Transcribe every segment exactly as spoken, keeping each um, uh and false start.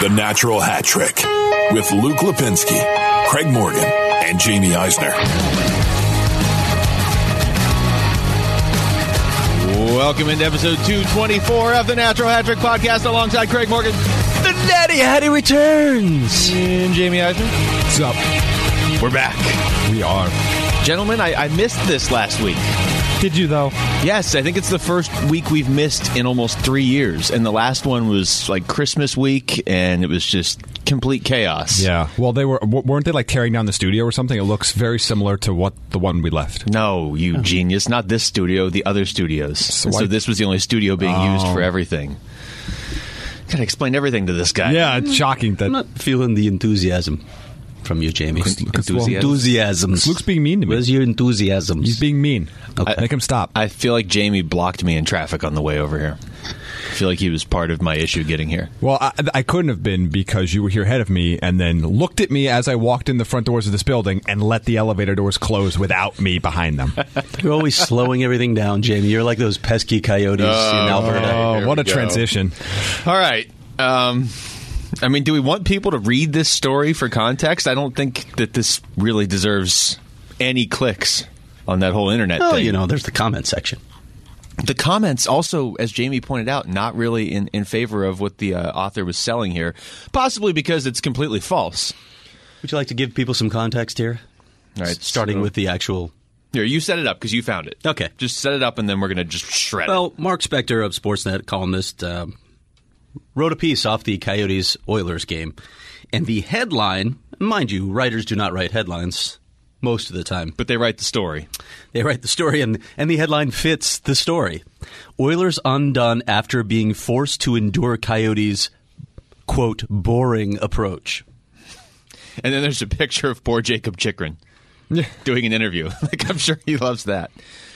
The Natural Hat Trick with Luke Lipinski, Craig Morgan, and Jamie Eisner. Welcome into episode two twenty-four of the Natural Hat Trick podcast alongside Craig Morgan. The Natty Hattie returns. And Jamie Eisner. What's up? We're back. We are. Gentlemen, I, I missed this last week. Did you, though? Yes, I think it's the first week we've missed in almost three years. And the last one was like Christmas week, and it was just complete chaos. Yeah. Well, they were weren't they like tearing down the studio or something? It looks very similar to what the one we left. No, you oh. genius. Not this studio, the other studios. So, so this was the only studio being oh. used for everything. Gotta explain everything to this guy. Yeah, it's shocking that I'm not feeling the enthusiasm from you, Jamie. Enthusiasm. Enthusiasm. Luke's being mean to me. Where's your enthusiasm? He's being mean. Okay. Make him stop. I feel like Jamie blocked me in traffic on the way over here. I feel like he was part of my issue getting here. Well, I, I couldn't have been because you were here ahead of me and then looked at me as I walked in the front doors of this building and let the elevator doors close without me behind them. You're always slowing everything down, Jamie. You're like those pesky coyotes oh, in Alberta. Oh, what a go. transition. All right. Um, I mean, do we want people to read this story for context? I don't think that this really deserves any clicks on that whole internet Oh, thing. you know, there's the comment section. The comments also, as Jamie pointed out, not really in, in favor of what the uh, author was selling here, possibly because it's completely false. Would you like to give people some context here? All right, starting so, with the actual... Here, you set it up because you found it. Okay. Just set it up and then we're going to just shred well, it. Well, Mark Spector of Sportsnet, columnist, uh, wrote a piece off the Coyotes-Oilers game. And the headline, mind you, writers do not write headlines most of the time. But they write the story. They write the story, and, and the headline fits the story. Oilers undone after being forced to endure Coyotes' quote, boring approach. And then there's a picture of poor Jacob Chikrin doing an interview. Like, I'm sure he loves that.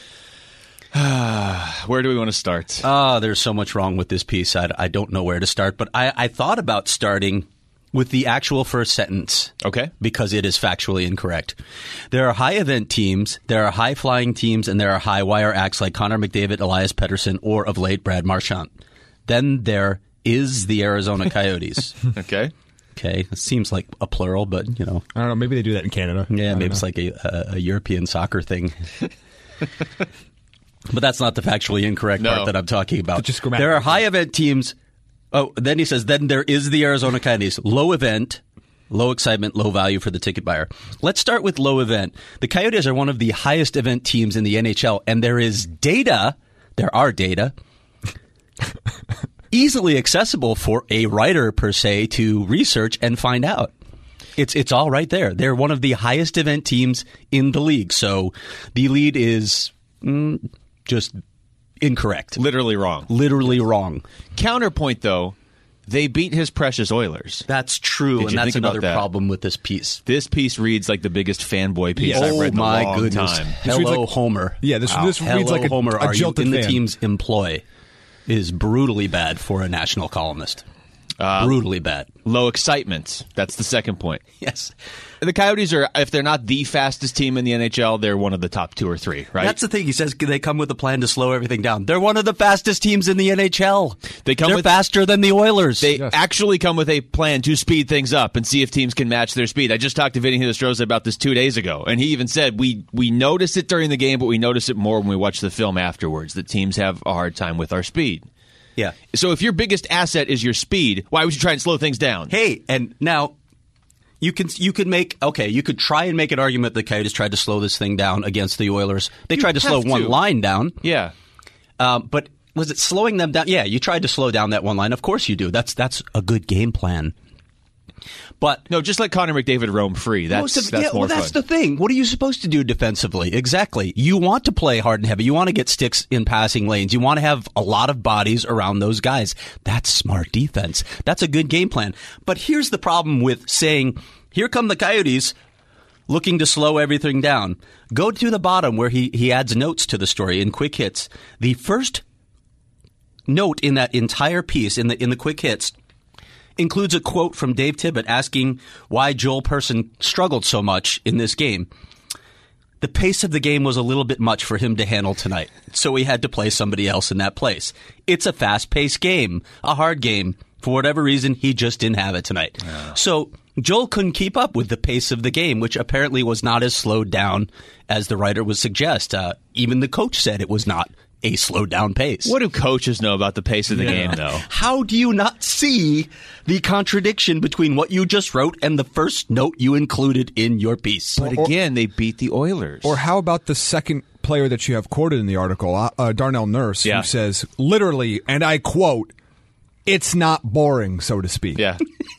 Where do we want to start? Ah, uh, there's so much wrong with this piece. I, I don't know where to start, but I, I thought about starting with the actual first sentence. Okay. Because it is factually incorrect. There are high-event teams, there are high-flying teams, and there are high-wire acts like Connor McDavid, Elias Pettersson, or of late, Brad Marchand. Then there is the Arizona Coyotes. Okay. Okay. It seems like a plural, but, you know. I don't know. Maybe they do that in Canada. Yeah, maybe know. it's like a, a, a European soccer thing. But that's not the factually incorrect no. part that I'm talking about. Just there are high-event teams. Oh, then he says, then there is the Arizona Coyotes. Low event, low excitement, low value for the ticket buyer. Let's start with low event. The Coyotes are one of the highest event teams in the N H L, and there is data, there are data, easily accessible for a writer, per se, to research and find out. It's it's all right there. They're one of the highest event teams in the league. So the lead is mm, just incorrect. Literally wrong. Literally wrong. Counterpoint, though, they beat his precious Oilers. That's true, Did and you that's think about another that? problem with this piece. This piece reads like the biggest fanboy piece oh I've read in a my long goodness. time. Hello, like, Homer. Yeah, this, wow. this Hello, reads like a, Homer. a Are you jilted in the fan. team's employ? Is brutally bad for a national columnist. Uh, brutally bad. Low excitement. That's the second point. Yes. The Coyotes are, if they're not the fastest team in the N H L, they're one of the top two or three, right? That's the thing. He says they come with a plan to slow everything down. They're one of the fastest teams in the N H L. They come They're with, faster than the Oilers. They Yes. actually come with a plan to speed things up and see if teams can match their speed. I just talked to Vinny Hinostroza about this two days ago, and he even said we we notice it during the game, but we notice it more when we watch the film afterwards, that teams have a hard time with our speed. Yeah. So if your biggest asset is your speed, why would you try and slow things down? Hey, and now you can you could make okay, you could try and make an argument the Coyotes tried to slow this thing down against the Oilers. They You tried to slow have one to. line down. Yeah. Um, but was it slowing them down? Yeah, you tried to slow down that one line. Of course you do. That's that's a good game plan. But No, just let Connor McDavid roam free. That's, most of, that's yeah, more well, that's fun. the thing. What are you supposed to do defensively? Exactly. You want to play hard and heavy. You want to get sticks in passing lanes. You want to have a lot of bodies around those guys. That's smart defense. That's a good game plan. But here's the problem with saying, here come the Coyotes looking to slow everything down. Go to the bottom where he, he adds notes to the story in quick hits. The first note in that entire piece, in the in the quick hits, includes a quote from Dave Tibbett asking why Joel Persson struggled so much in this game. The pace of the game was a little bit much for him to handle tonight, so he had to play somebody else in that place. It's a fast-paced game, a hard game For whatever reason, he just didn't have it tonight. Yeah. So Joel couldn't keep up with the pace of the game, which apparently was not as slowed down as the writer would suggest. Uh, even the coach said it was not a slowed down pace. What do coaches know about the pace of the yeah. game, though? How do you not see the contradiction between what you just wrote and the first note you included in your piece? But again, they beat the Oilers. Or how about the second player that you have quoted in the article, uh, Darnell Nurse, yeah. who says, literally, and I quote, "It's not boring, so to speak." Yeah.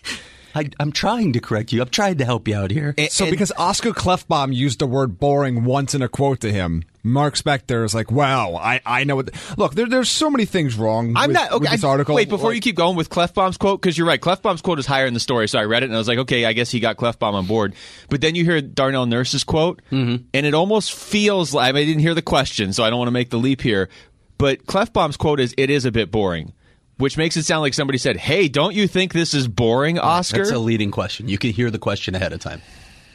I, I'm trying to correct you. I'm trying to help you out here. And, so because Oscar Klefbom used the word boring once in a quote to him, Mark Spector is like, wow, I, I know what... The, look, there, there's so many things wrong I'm with, not, okay, with this article. Wait, before like, you keep going with Klefbom's quote, because you're right, Klefbom's quote is higher in the story, so I read it and I was like, okay, I guess he got Klefbom on board. But then you hear Darnell Nurse's quote, mm-hmm. and it almost feels like... I, mean, I didn't hear the question, so I don't want to make the leap here, but Klefbom's quote is, it is a bit boring. Which makes it sound like somebody said, hey, don't you think this is boring, Oscar? That's a leading question. You can hear the question ahead of time.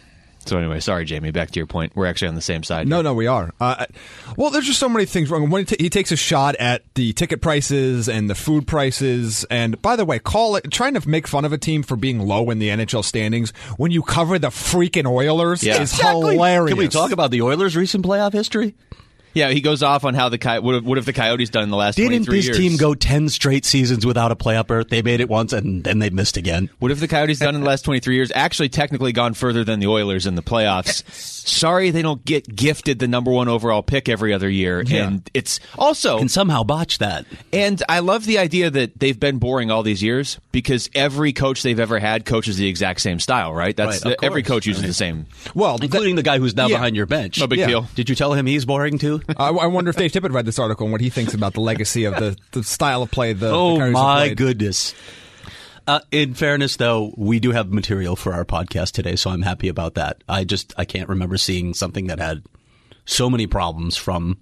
So anyway, sorry, Jamie, back to your point. We're actually on the same side. No, here. no, we are. Uh, well, there's just so many things wrong. When he, t- he takes a shot at the ticket prices and the food prices, and by the way, call it trying to make fun of a team for being low in the N H L standings when you cover the freaking Oilers yeah. is exactly. hilarious. Can we talk about the Oilers' recent playoff history? Yeah, he goes off on how the Coy- what, have, what have the Coyotes done in the last Didn't twenty-three years? Didn't this team go ten straight seasons without a playoff berth? They made it once, and then they missed again. What have the Coyotes done in the last twenty-three years? Actually, technically gone further than the Oilers in the playoffs. Sorry they don't get gifted the number one overall pick every other year. Yeah. And it's also... Can somehow botch that. And I love the idea that they've been boring all these years because every coach they've ever had coaches the exact same style, right? That's right, the, every coach uses right. the same. Well, including that, the guy who's now yeah. behind your bench. No big yeah. deal. Did you tell him he's boring too? I, I wonder if Dave Tippett read this article and what he thinks about the legacy of the, the style of play the Oh, the Coyotes my have played. goodness. Uh, in fairness, though, we do have material for our podcast today, so I'm happy about that. I just I can't remember seeing something that had so many problems from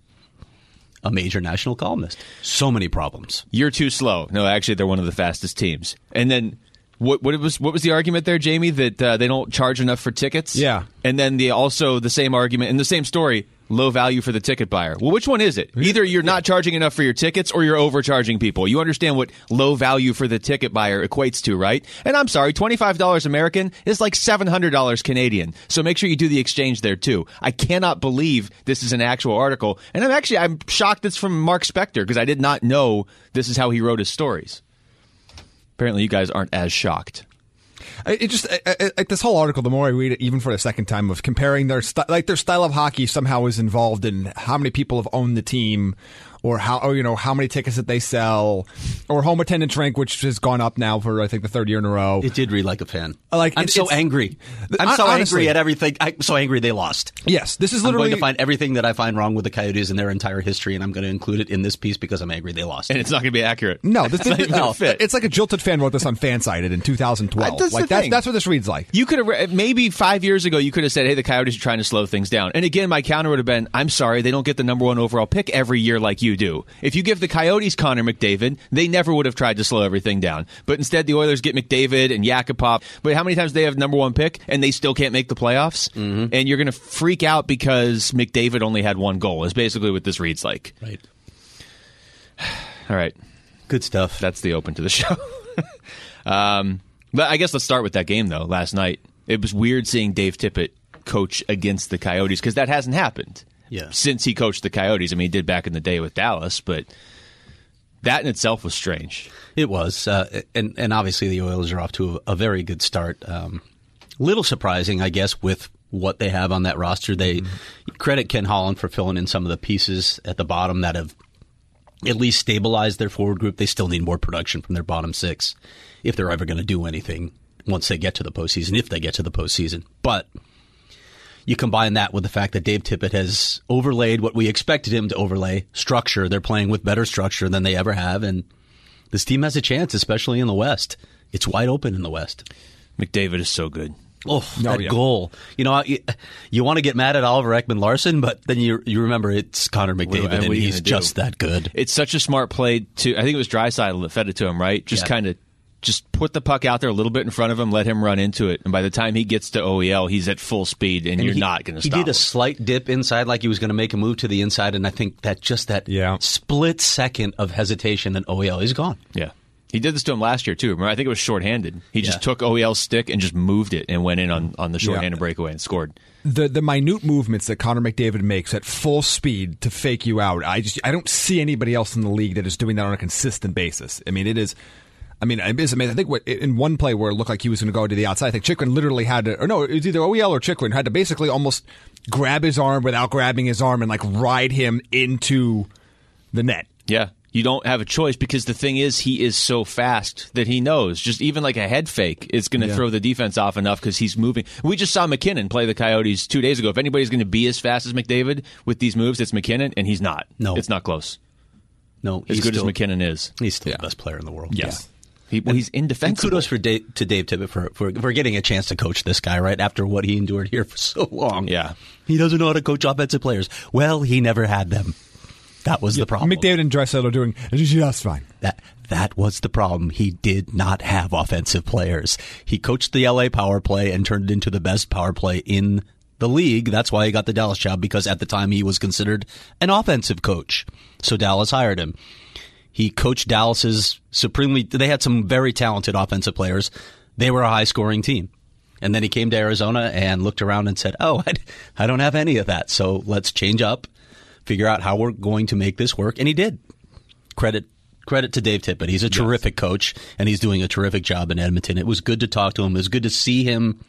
a major national columnist. So many problems. You're too slow. No, actually, they're one of the fastest teams. And then what what was what was the argument there, Jamie, that uh, they don't charge enough for tickets? Yeah. And then the also the same argument in the same story, low value for the ticket buyer. Well, which one is it? Either you're not charging enough for your tickets or you're overcharging people. You understand what low value for the ticket buyer equates to, right? And I'm sorry, twenty-five dollars American is like seven hundred dollars Canadian. So make sure you do the exchange there too. I cannot believe this is an actual article. And I'm actually I'm shocked it's from Mark Spector because I did not know this is how he wrote his stories. Apparently you guys aren't as shocked. It just I, I, this whole article. The more I read it, even for the second time, of comparing their st- like their style of hockey somehow is involved in how many people have owned the team, or how or, you know how many tickets that they sell, or home attendance rank, which has gone up now for I think the third year in a row. It did read like a fan. Like I'm it, so angry. I'm so honestly, angry at everything. I'm so angry they lost. Yes, this is literally. I'm going to find everything that I find wrong with the Coyotes and their entire history, and I'm going to include it in this piece because I'm angry they lost. And it's not going to be accurate. No, this doesn't no. fit. It's like a jilted fan wrote this on Fansided in two thousand twelve. That's like the that's thing. that's what this reads like. You could have maybe five years ago. You could have said, "Hey, the Coyotes are trying to slow things down." And again, my counter would have been, "I'm sorry, they don't get the number one overall pick every year like you do. If you give the Coyotes Connor McDavid, they never would have tried to slow everything down. But instead, the Oilers get McDavid and Yakupov. But how many times do they have number one pick and they still can't make the playoffs? Mm-hmm. And you're going to freak out because McDavid only had one goal. Is basically what this reads like. Right. All right. Good stuff. That's the open to the show. um, but I guess let's start with that game though. Last night, it was weird seeing Dave Tippett coach against the Coyotes because that hasn't happened. Yeah. Since he coached the Coyotes. I mean, he did back in the day with Dallas, but that in itself was strange. It was. Uh, and, and obviously the Oilers are off to a, a very good start. Um, little surprising, I guess, with what they have on that roster. They mm-hmm. credit Ken Holland for filling in some of the pieces at the bottom that have at least stabilized their forward group. They still need more production from their bottom six if they're ever going to do anything once they get to the postseason, if they get to the postseason. But you combine that with the fact that Dave Tippett has overlaid what we expected him to overlay, structure. They're playing with better structure than they ever have, and this team has a chance, especially in the West. It's wide open in the West. McDavid is so good. Oh, that oh, yeah. goal. You know, you, you want to get mad at Oliver Ekman-Larsson, but then you you remember it's Connor McDavid, and, and he's just that good. It's such a smart play to, I think it was Draisaitl that fed it to him, right? Just yeah. kind of Just put the puck out there a little bit in front of him, let him run into it, and by the time he gets to O E L, he's at full speed, and, and you're he, not going to stop He did him. a slight dip inside like he was going to make a move to the inside, and I think that just that yeah. split second of hesitation, and O E L, he's gone. Yeah. He did this to him last year, too. Remember, I think it was shorthanded. He just Yeah. took O E L's stick and just moved it and went in on, on the shorthanded Yeah. breakaway and scored. The the minute movements that Connor McDavid makes at full speed to fake you out, I just I don't see anybody else in the league that is doing that on a consistent basis. I mean, it is. I mean, it is amazing. I think what, in one play where it looked like he was going to go to the outside, I think Chychrun literally had to, or no, it was either O E L or Chychrun had to basically almost grab his arm without grabbing his arm and like ride him into the net. Yeah. You don't have a choice because the thing is, he is so fast that he knows just even like a head fake is going to Yeah. throw the defense off enough because he's moving. We just saw McKinnon play the Coyotes two days ago. If anybody's going to be as fast as McDavid with these moves, it's McKinnon, and he's not. No. It's not close. No, As he's good still, as McKinnon is. He's still Yeah. the best player in the world. Yes. He, well, he's And indefensible. kudos for Dave, to Dave Tippett for, for for getting a chance to coach this guy right after what he endured here for so long. Yeah. He doesn't know how to coach offensive players. Well, he never had them. That was the problem. McDavid and Draisaitl are doing just fine. That that was the problem. He did not have offensive players. He coached the L A power play and turned it into the best power play in the league. That's why he got the Dallas job, because at the time he was considered an offensive coach. So Dallas hired him. He coached Dallas's supremely. They had some very talented offensive players. They were a high-scoring team. And then he came to Arizona and looked around and said, oh, I, I don't have any of that. So let's change up, figure out how we're going to make this work. And he did. Credit credit to Dave Tippett. He's a terrific coach, and he's doing a terrific job in Edmonton. It was good to talk to him. It was good to see him,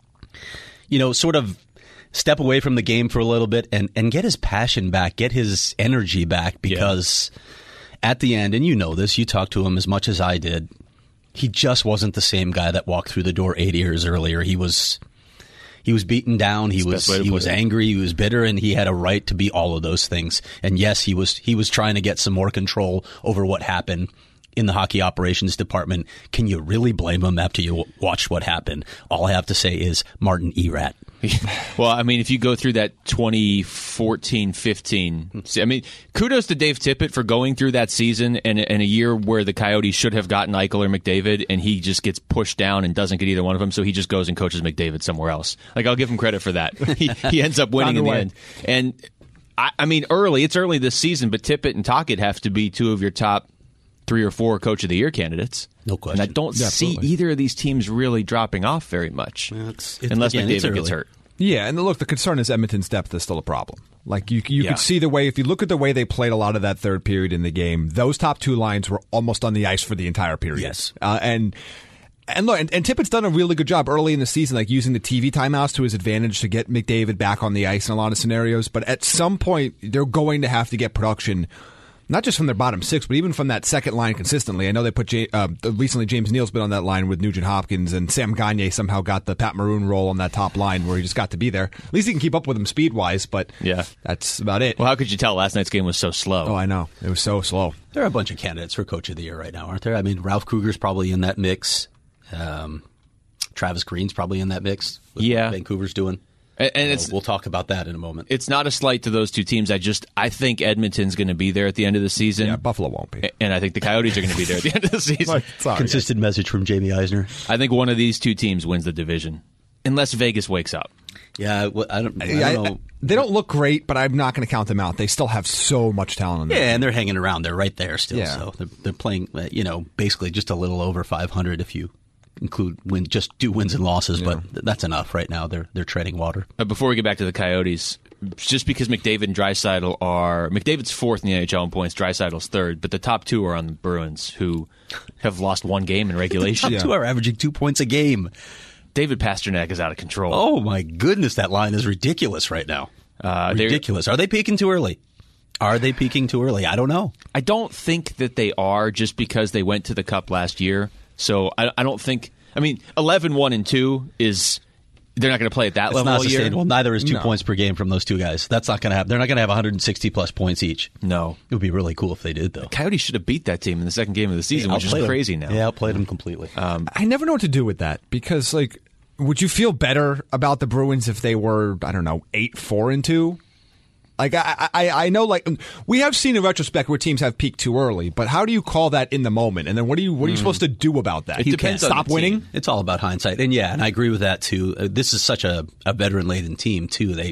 you know, sort of step away from the game for a little bit and, and get his passion back, get his energy back, because at the end, and you know this, you talked to him as much as I did, he just wasn't the same guy that walked through the door eight years earlier. He was he was beaten down, he was best way to he put was it. angry, he was bitter, and he had a right to be all of those things. And yes, he was he was trying to get some more control over what happened in the hockey operations department. Can you really blame him after you w- watched what happened? All I have to say is Martin Erat. Well, I mean, if you go through that twenty fourteen fifteen, I mean, kudos to Dave Tippett for going through that season and, and a year where the Coyotes should have gotten Eichel or McDavid, and he just gets pushed down and doesn't get either one of them, so he just goes and coaches McDavid somewhere else. Like, I'll give him credit for that. He, he ends up winning in the Found a way. end. And, I, I mean, early, it's early this season, but Tippett and Tocchet have to be two of your top three or four Coach of the Year candidates. No question. And I don't Yeah, see absolutely. either of these teams really dropping off very much, It's- it's- unless again, it's McDavid gets early. hurt. Yeah, and look, the concern is Edmonton's depth is still a problem. Like you, you Yeah. could see the way, if you look at the way they played a lot of that third period in the game, those top two lines were almost on the ice for the entire period. Yes. uh, and and look, and, and Tippett's done a really good job early in the season, like using the T V timeouts to his advantage to get McDavid back on the ice in a lot of scenarios. But at some point, they're going to have to get production. Not just from their bottom six, but even from that second line consistently. I know they put J- uh, recently James Neal's been on that line with Nugent Hopkins, and Sam Gagner somehow got the Pat Maroon role on that top line where he just got to be there. At least he can keep up with him speed wise, but Yeah. that's about it. Well, how could you tell last night's game was so slow? Oh, I know. It was so slow. There are a bunch of candidates for Coach of the Year right now, aren't there? I mean, Ralph Kruger's probably in that mix. Um, Travis Green's probably in that mix. With Yeah. what Vancouver's doing. And, and So it's we'll talk about that in a moment. it's not a slight to those two teams. I just I think Edmonton's going to be there at the end of the season. Yeah, Buffalo won't be. And I think the Coyotes are going to be there at the end of the season. Sorry. Consistent message from Jamie Eisner. I think one of these two teams wins the division, unless Vegas wakes up. Yeah, well, I don't, I Yeah, don't I- know. they don't look great, but I'm not going to count them out. They still have so much talent in them. Yeah, and they're hanging around. They're right there still. Yeah. So they're, they're playing, uh, you know, basically just a little over five hundred if you include win, just do wins and losses. But th- that's enough right now. They're they're treading water. Uh, before we get back to the Coyotes, just because McDavid and Draisaitl are McDavid's fourth in the N H L in points, Draisaitl's third, but the top two are on the Bruins, who have lost one game in regulation. Top two are averaging two points a game. David Pasternak is out of control. Oh my goodness, that line is ridiculous right now. Uh, they're- ridiculous. Are they peaking too early? Are they peaking too early? I don't know. I don't think that they are, just because they went to the Cup last year. So I, I don't think. I mean, eleven one and two is they're not going to play at that It's level not all year. sustainable. Neither is two No. points per game from those two guys. That's not going to happen. They're not going to have one hundred sixty plus points each. No, It would be really cool if they did, though. Coyotes should have beat that team in the second game of the season, which is Outplayed them. crazy now. Yeah, outplayed them completely. I never know what to do with that because, like, would you feel better about the Bruins if they were, I don't know, eight four and two? Like, I, I, I know, like, we have seen in retrospect where teams have peaked too early, but how do you call that in the moment? And then what are you, what are you supposed to do about that? It You depends can't on stop the winning. team. It's all about hindsight, and yeah, and I agree with that too. Uh, this is such a, a veteran-laden team too. They,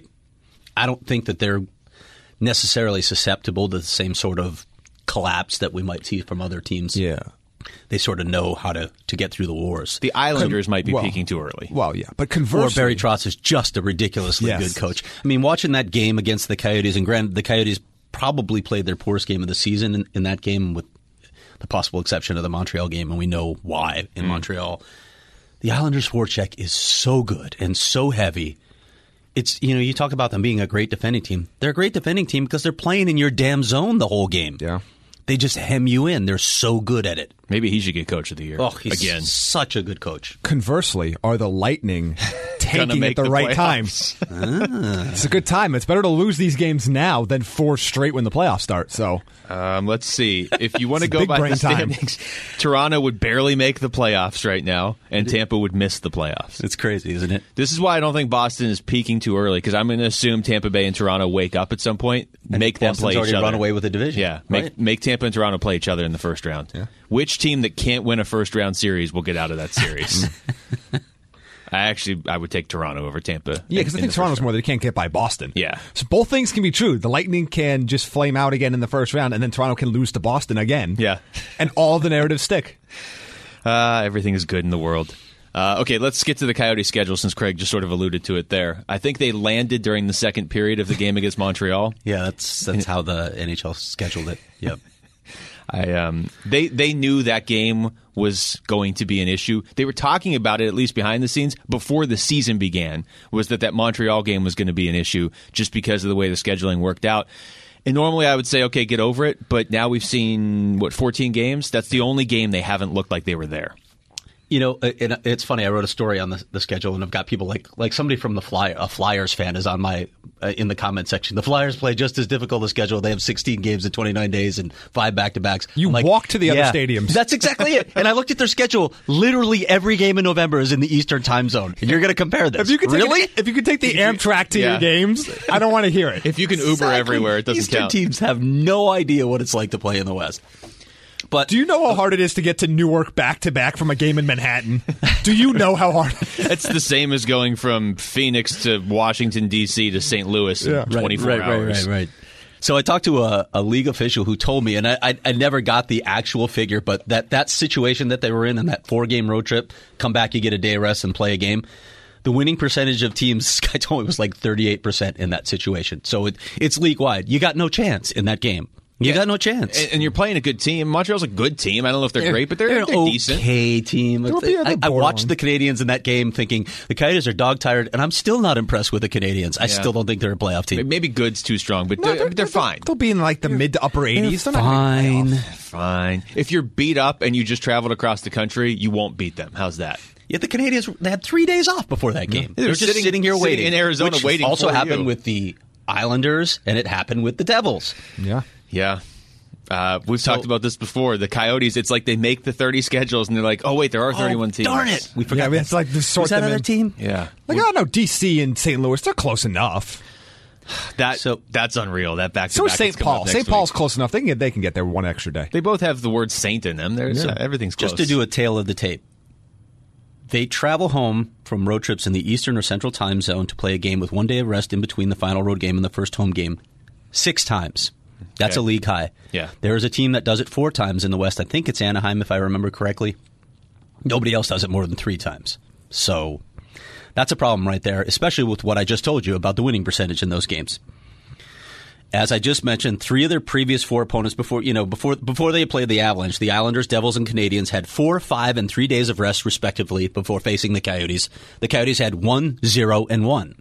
I don't think that they're necessarily susceptible to the same sort of collapse that we might see from other teams. Yeah. they sort of know how to, to get through the wars. The Islanders Con- might be well, peaking too early. Well, yeah, but conversely, or Barry Trotz is just a ridiculously yes. good coach. I mean, watching that game against the Coyotes, and granted, the Coyotes probably played their poorest game of the season in, in that game, with the possible exception of the Montreal game, and we know why in mm. Montreal. The Islanders' forecheck is so good and so heavy. It's, you know, you talk about them being a great defending team. They're a great defending team because they're playing in your damn zone the whole game. Yeah. They just hem you in. They're so good at it. Maybe he should get Coach of the Year. Oh, he's again. Such a good coach. Conversely, are the Lightning tanking at the, the right playoffs. time? ah. It's a good time. It's better to lose these games now than four straight when the playoffs start. So, um, let's see. If you want to go by the standings, Toronto would barely make the playoffs right now, and Tampa would miss the playoffs. It's crazy, isn't it? This is why I don't think Boston is peaking too early, because I'm going to assume Tampa Bay and Toronto wake up at some point, and make them Boston's play each already other. Run away with the division. Yeah, make right? make Tampa and Toronto play each other in the first round. Yeah. Which team that can't win a first round series will get out of that series? I actually I would take Toronto over Tampa. Yeah, because I think Toronto's more they can't get by Boston. Yeah. So both things can be true. The Lightning can just flame out again in the first round, and then Toronto can lose to Boston again. Yeah. And all the narratives stick. Uh, everything is good in the world. Uh, okay, let's get to the Coyote schedule since Craig just sort of alluded to it there. I think they landed during the second period of the game against Montreal. Yeah, that's that's how the N H L scheduled it. Yep. I um they they knew that game was going to be an issue. They were talking about it, at least behind the scenes, before the season began, was that that Montreal game was going to be an issue just because of the way the scheduling worked out. And normally I would say, okay, get over it, but now we've seen, what, fourteen games? That's the only game they haven't looked like they were there. You know, it, it's funny. I wrote a story on the, the schedule, and I've got people like like somebody from the Fly, a Flyers fan is on my uh, in the comment section. The Flyers play just as difficult a schedule. They have sixteen games in twenty-nine days and five back to backs. You like, walk to the yeah, other stadiums. That's exactly it. And I looked at their schedule. Literally every game in November is in the Eastern Time Zone. And you're going to compare this? If you could take really? An, if you could take the Amtrak to yeah. your games, I don't want to hear it. If you can Uber Exactly. everywhere, it doesn't Eastern count. Teams have no idea what it's like to play in the West. But do you know how hard it is to get to Newark back to back from a game in Manhattan? Do you know how hard? It's the same as going from Phoenix to Washington, D C to Saint Louis in Yeah. twenty-four right, right, hours. Right, right, right. So I talked to a, a league official who told me, and I, I, I never got the actual figure, but that, that situation that they were in, in that four-game road trip, come back, you get a day of rest and play a game. The winning percentage of teams, this guy told me, was like thirty-eight percent in that situation. So it, it's league-wide. You got no chance in that game. You Yeah. got no chance. And, and you're playing a good team. Montreal's a good team. I don't know if they're, They're- great, but they're, they're they're, an decent. okay team. They'll be- I, they're I watched borderline. the Canadians in that game thinking the Coyotes are dog-tired, and I'm still not impressed with the Canadians. I Yeah. still don't think they're a playoff team. Maybe good's too strong, but No, they're, they're fine. They'll be in like the mid to upper eighties. They're not gonna make Fine. playoffs. Fine. If you're beat up and you just traveled across the country, you won't beat them. How's that? Yet the Canadians, they had three days off before that game. They They were were just sitting- sitting, here sitting waiting. in Arizona which waiting also for happened you. with the Islanders, and it happened with the Devils. Yeah. Yeah. Uh, we've talked about this before. The Coyotes, it's like they make the thirty schedules and they're like, oh, wait, there are thirty-one oh, teams. Darn it. We forgot Yeah, I mean, that. it's like to sort Was that them other in. team? Yeah. Like, oh no, D C and Saint Louis, they're close enough. That, So- that's unreal. That back to So is back Saint that's coming up Paul. next Saint week. Paul's close enough. They can get they can get there one extra day. They both have the word saint in them. There's Yeah. uh, everything's close. Just to do a tale of the tape. They travel home from road trips in the Eastern or Central time zone to play a game with one day of rest in between the final road game and the first home game six times. That's Okay. a league high. Yeah. There is a team that does it four times in the West. I think it's Anaheim, if I remember correctly. Nobody else does it more than three times. So that's a problem right there, especially with what I just told you about the winning percentage in those games. As I just mentioned, three of their previous four opponents before you know before before they played the Avalanche, the Islanders, Devils, and Canadians had four, five, and three days of rest respectively before facing the Coyotes. The Coyotes had one, zero, and one.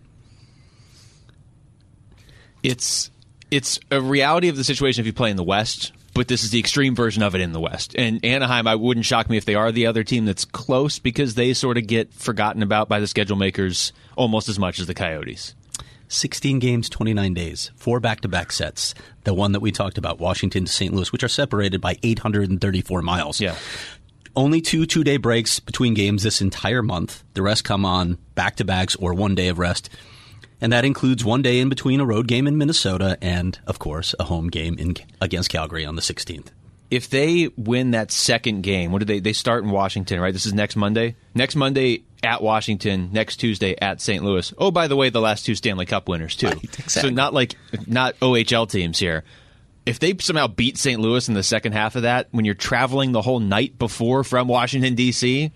It's it's a reality of the situation if you play in the West, but this is the extreme version of it in the West. And Anaheim, I wouldn't shock me if they are the other team that's close because they sort of get forgotten about by the schedule makers almost as much as the Coyotes. sixteen games, twenty-nine days, four back-to-back sets. The one that we talked about, Washington to Saint Louis, which are separated by eight hundred thirty-four miles. Yeah. Only two two-day breaks between games this entire month. The rest come on back-to-backs or one day of rest. And that includes one day in between a road game in Minnesota and, of course, a home game in, against Calgary on the sixteenth. If they win that second game, what do they they start in Washington, right? This is next Monday. Next Monday at Washington, next Tuesday at Saint Louis. Oh, by the way, the last two Stanley Cup winners too. Right, exactly. So not like not O H L teams here. if they somehow beat Saint Louis in the second half of that, when you're traveling the whole night before from Washington, D C,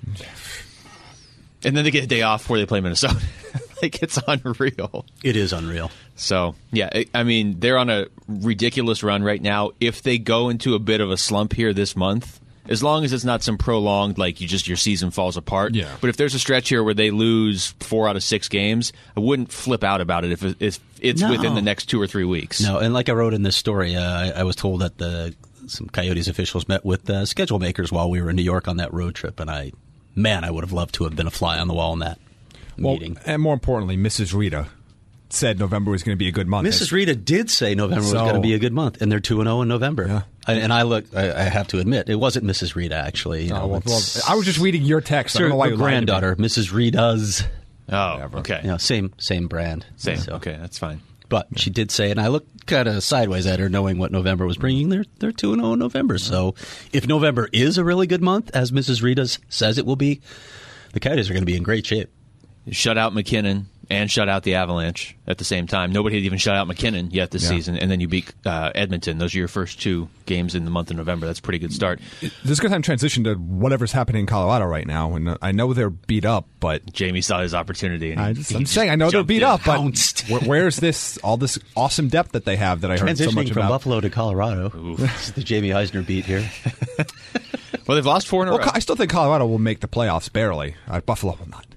and then they get a day off before they play Minnesota, like, it's unreal. It is unreal. So, yeah, it, I mean, they're on a ridiculous run right now. If they go into a bit of a slump here this month, as long as it's not some prolonged, like, you just your season falls apart. Yeah. But if there's a stretch here where they lose four out of six games, I wouldn't flip out about it if, it, if it's No. within the next two or three weeks. No, and like I wrote in this story, uh, I, I was told that the some Coyotes officials met with uh, schedule makers while we were in New York on that road trip, and I, man, I would have loved to have been a fly on the wall in that Well, meeting. and more importantly, Missus Rita said November was going to be a good month. Missus Rita did say November was So- going to be a good month, and they're two and zero in November. Yeah. I, and I look, I, I have to admit, it wasn't Missus Rita actually. You know, Oh, well, well, it's- I was just reading your text. I don't know why her you lied to me. granddaughter, Missus Rita's. Oh, okay. You know, same same brand. Same. So- Okay, that's fine. But she did say, and I looked kind of sideways at her, knowing what November was bringing. They're they're two and zero in November. So if November is a really good month, as Missus Rita's says it will be, the Coyotes are going to be in great shape. Shut out McKinnon and shut out the Avalanche at the same time. Nobody had even shut out McKinnon yet this Yeah. season, and then you beat uh, Edmonton. Those are your first two games in the month of November. That's a pretty good start. This is a good time to transition to whatever's happening in Colorado right now. And uh, I know they're beat up, but Jamie saw his opportunity. And he, I just, he I'm just saying I know they're jumped beat in. up, but Pounced. where, where's this all this awesome depth that they have that I heard so Transitioning much from about? Buffalo to Colorado. This is the Jamie Eisner beat here. Well, they've lost four in a Well, row. I still think Colorado will make the playoffs barely. Uh, Buffalo will not.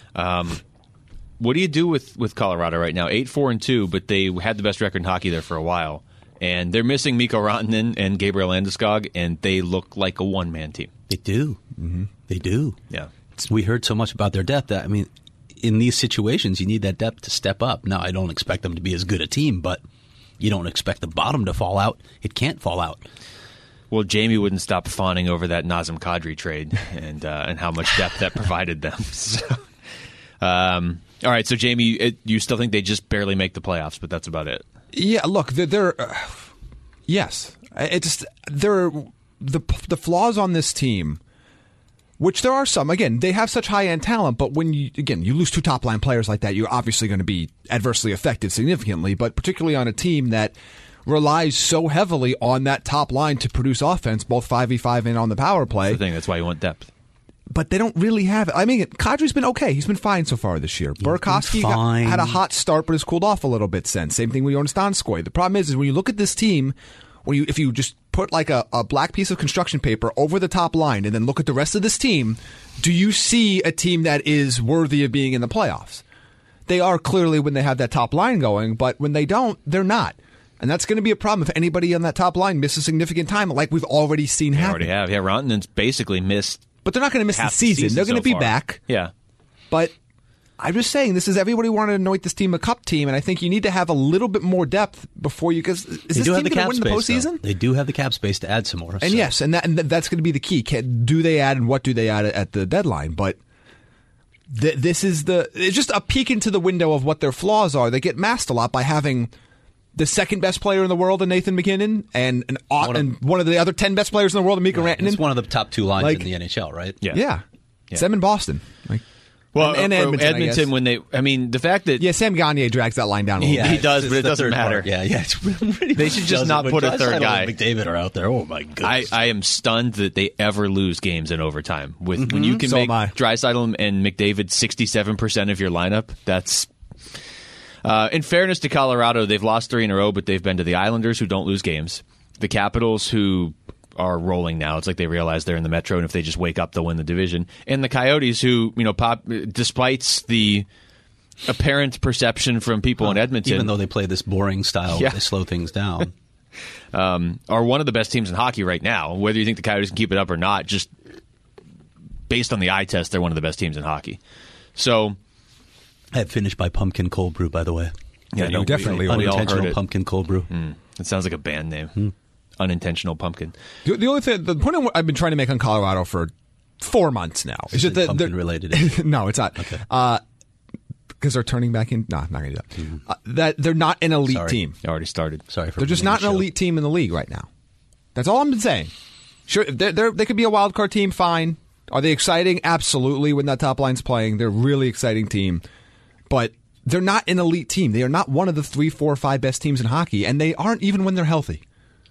What do you do with, with Colorado right now? Eight, four, and two, but they had the best record in hockey there for a while, and they're missing Mikko Rantanen and Gabriel Landeskog, and they look like a one man team. They do. Mm-hmm. They do. Yeah. We heard so much about their depth that, I mean, in these situations, you need that depth to step up. Now, I don't expect them to be as good a team, but you don't expect the bottom to fall out. It can't fall out. Well, Jamie wouldn't stop fawning over that Nazem Kadri trade and uh, and how much depth that provided them. So, um, all right, so Jamie, it, you still think they just barely make the playoffs, but that's about it. Yeah, look, they're, they're uh, yes, it just they're the the flaws on this team, which there are some. Again, they have such high end talent, but when you again you lose two top line players like that, you're obviously going to be adversely affected significantly. But particularly on a team that relies so heavily on that top line to produce offense, both five v five and on the power play. That's the thing. That's why you want depth. But they don't really have it. I mean, Kadri's been okay. He's been fine so far this year. Burakovsky got, fine. had a hot start, but has cooled off a little bit since. Same thing with Jonas Donskoy. The problem is, is when you look at this team, when you if you just put like a, a black piece of construction paper over the top line and then look at the rest of this team, do you see a team that is worthy of being in the playoffs? They are clearly when they have that top line going, but when they don't, they're not. And that's going to be a problem if anybody on that top line misses significant time, like we've already seen They happen. already have. Yeah, Rantanen's basically missed. But they're not going to miss the half the season. They're going so to be far. back. Yeah. But I'm just saying, this is everybody wanted to anoint this team a cup team, and I think you need to have a little bit more depth before you. Because is They this do team have the going to cap win the space, though. postseason? They do have the cap space to add some more. And so. yes, and, that, and that's going to be the key. Can, do they add, and what do they add at the deadline? But th- this is the it's just a peek into the window of what their flaws are. They get masked a lot by having the second best player in the world in Nathan McKinnon, and an, One of- and one of the other ten best players in the world in Mikko Right. Rantanen. It's one of the top two lines Like- in the N H L, right? Yeah. yeah. Yeah. Sam in Boston. Like, Well, and, and uh, Edmonton, I Edmonton guess. when they, I mean, the fact that Yeah, Sam Gagner drags that line down a little Yeah. bit. He does, it's but it the doesn't third matter. part. Yeah, yeah. It's really They should just doesn't, not but put a Draisaitl third guy. and McDavid are out there. Oh my I, goodness! I am stunned that they ever lose games in overtime. With when you can So make am I. Draisaitl and McDavid sixty-seven percent of your lineup, that's. Uh, in fairness to Colorado, they've lost three in a row, but they've been to the Islanders, who don't lose games, the Capitals, who are rolling now. It's like they realize they're in the Metro, and if they just wake up, they'll win the division. And the Coyotes, who, you know, pop, despite the apparent perception from people in Edmonton, Even though they play this boring style, Yeah. they slow things down. um, are one of the best teams in hockey right now. Whether you think the Coyotes can keep it up or not, just based on the eye test, they're one of the best teams in hockey. So, I have finished by Pumpkin Cold Brew, by the way. yeah, you no, definitely we, are. we all heard Unintentional it. Pumpkin Cold Brew. Mm, it sounds like a band name. Unintentional Pumpkin. The, the only thing, the point I've been trying to make on Colorado for four months now is just that pumpkin they're- related. no, it's not. Okay. Uh, because they're turning back in. No, I'm not going to do that. Uh, that they're not an elite Sorry. team. You already started. Sorry for They're just ruining not the an show. elite team in the league right now. That's all I'm saying. Sure, they're, they're, they could be a wild card team. Fine. Are they exciting? Absolutely. When that top line's playing, they're a really exciting team. But they're not an elite team. They are not one of the three, four, five best teams in hockey, and they aren't even when they're healthy.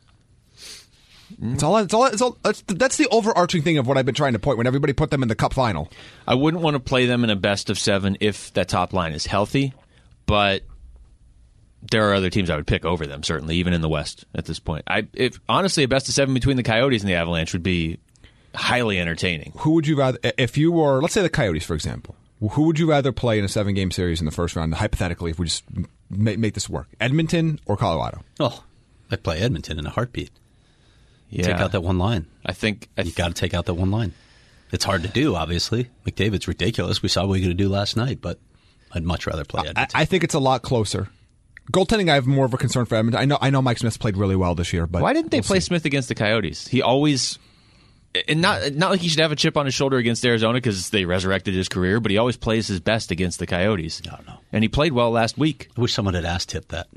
It's all. It's all. It's all. It's, that's the overarching thing of what I've been trying to point when everybody put them in the Cup final. I wouldn't want to play them in a best of seven if that top line is healthy, but there are other teams I would pick over them, certainly, even in the West at this point. I, if honestly, a best of seven between the Coyotes and the Avalanche would be highly entertaining. Who would you rather, if you were, let's say the Coyotes, for example, who would you rather play in a seven-game series in the first round, hypothetically, if we just make, make this work? Edmonton or Colorado? Oh, I'd play Edmonton in a heartbeat. Yeah. Take out that one line. I think I you got to take out that one line. It's hard to do, obviously. McDavid's ridiculous. We saw what we were going to do last night, but I'd much rather play Edmonton. I, I think it's a lot closer. Goaltending, I have more of a concern for Edmonton. I know, I know Mike Smith's played really well this year, but why didn't they we'll play see. Smith against the Coyotes? He always. And not not like he should have a chip on his shoulder against Arizona because they resurrected his career, but he always plays his best against the Coyotes. I don't know. And he played well last week. I wish someone had asked Tip that.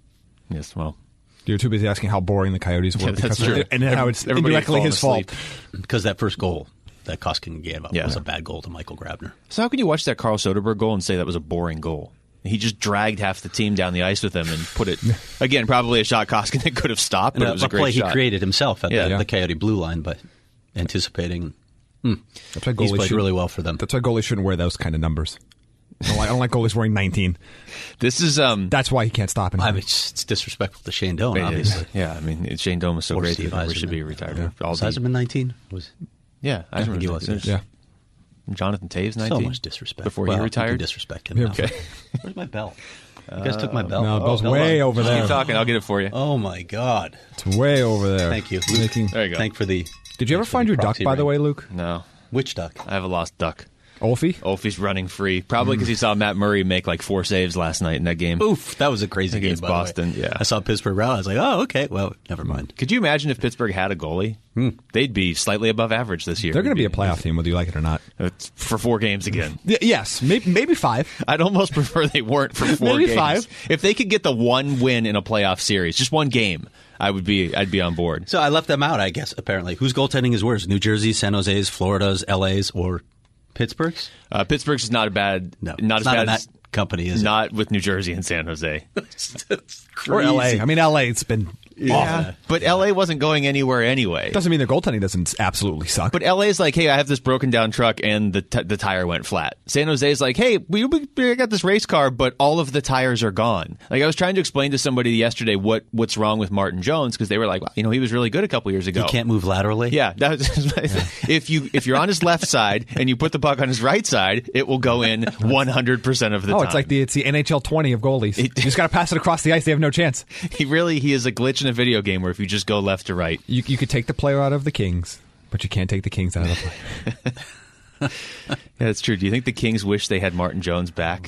Yes, well. You're too busy asking how boring the Coyotes were, Yeah, that's because true. and how it's Everybody indirectly had his fallen fault. Because that first goal that Koskinen gave up Yeah. was a bad goal to Michael Grabner. So how can you watch that Carl Soderberg goal and say that was a boring goal? He just dragged half the team down the ice with him and put it, again, probably a shot Koskinen could have stopped, but And it was a a great play shot. he created himself at Yeah. the, Yeah. the Coyote blue line, but anticipating. Hmm. That's why He's goalies played should- really well for them. That's why goalies shouldn't wear those kind of numbers. I don't like, I don't like goalies wearing nineteen. This is um. That's why he can't stop I him. mean, it's, it's disrespectful to Shane Doan, it is. obviously. Yeah, I mean Shane Doan was so Or great Steve he never Yzerman. should be retired. Yeah. All Was the- Yzerman nineteen? Was Yeah, I think he was. Yeah. Jonathan Taves, so nineteen. much disrespect. Before well, he you retired. can disrespect him. Yeah. now. Okay. Where's my bell? You guys took my bell. No, the bell's Oh, way bell. over there. Keep talking. I'll get it for you. Oh my God! It's way over there. Thank you. Making, There you go. Thank for the. did you ever thanks for find the your duck, proxy by the ring. way, Luke? No, Which duck? I have a lost duck. Olfie? Olfie's running free, probably because he saw Matt Murray make like four saves last night in that game. Oof, that was a crazy game Against by the way. Boston, yeah. I saw Pittsburgh round. I was like, oh, okay. Well, never mind. Could you imagine if Pittsburgh had a goalie? They'd be slightly above average this year. They're going to They'd be a playoff team, whether you like it or not. It's for four games again. Y- yes, maybe, maybe five. I'd almost prefer they weren't for four Maybe games. five. If they could get the one win in a playoff series, just one game, I would be. I'd be on board. So I left them out, I guess. Apparently, whose goaltending is worse? New Jersey, San Jose's, Florida's, L A's, or Pittsburgh's? Uh, Pittsburgh's is not a bad. No, not it's as not bad in that as company, is not with New Jersey and San Jose. it? Or L A. I mean, L A, it's been awful. But L A wasn't going anywhere anyway. Doesn't mean their goaltending doesn't absolutely suck. But L A's like, hey, I have this broken down truck and the t- the tire went flat. San Jose's like, hey, we, we we got this race car, but all of the tires are gone. Like I was trying to explain to somebody yesterday what what's wrong with Martin Jones because they were like, well, you know, he was really good a couple years ago. He can't move laterally? Yeah, that was, if you if you're on his left side and you put the puck on his right side, it will go in one hundred percent of the oh, time. it's like the it's the N H L twenty of goalies. you just got to pass it across the ice. They have no chance. he really he is a glitch in a video game where if you just go left to right. You, you could take the player out of the Kings, but you can't take the Kings out of the player. Yeah, that's true. Do you think the Kings wish they had Martin Jones back?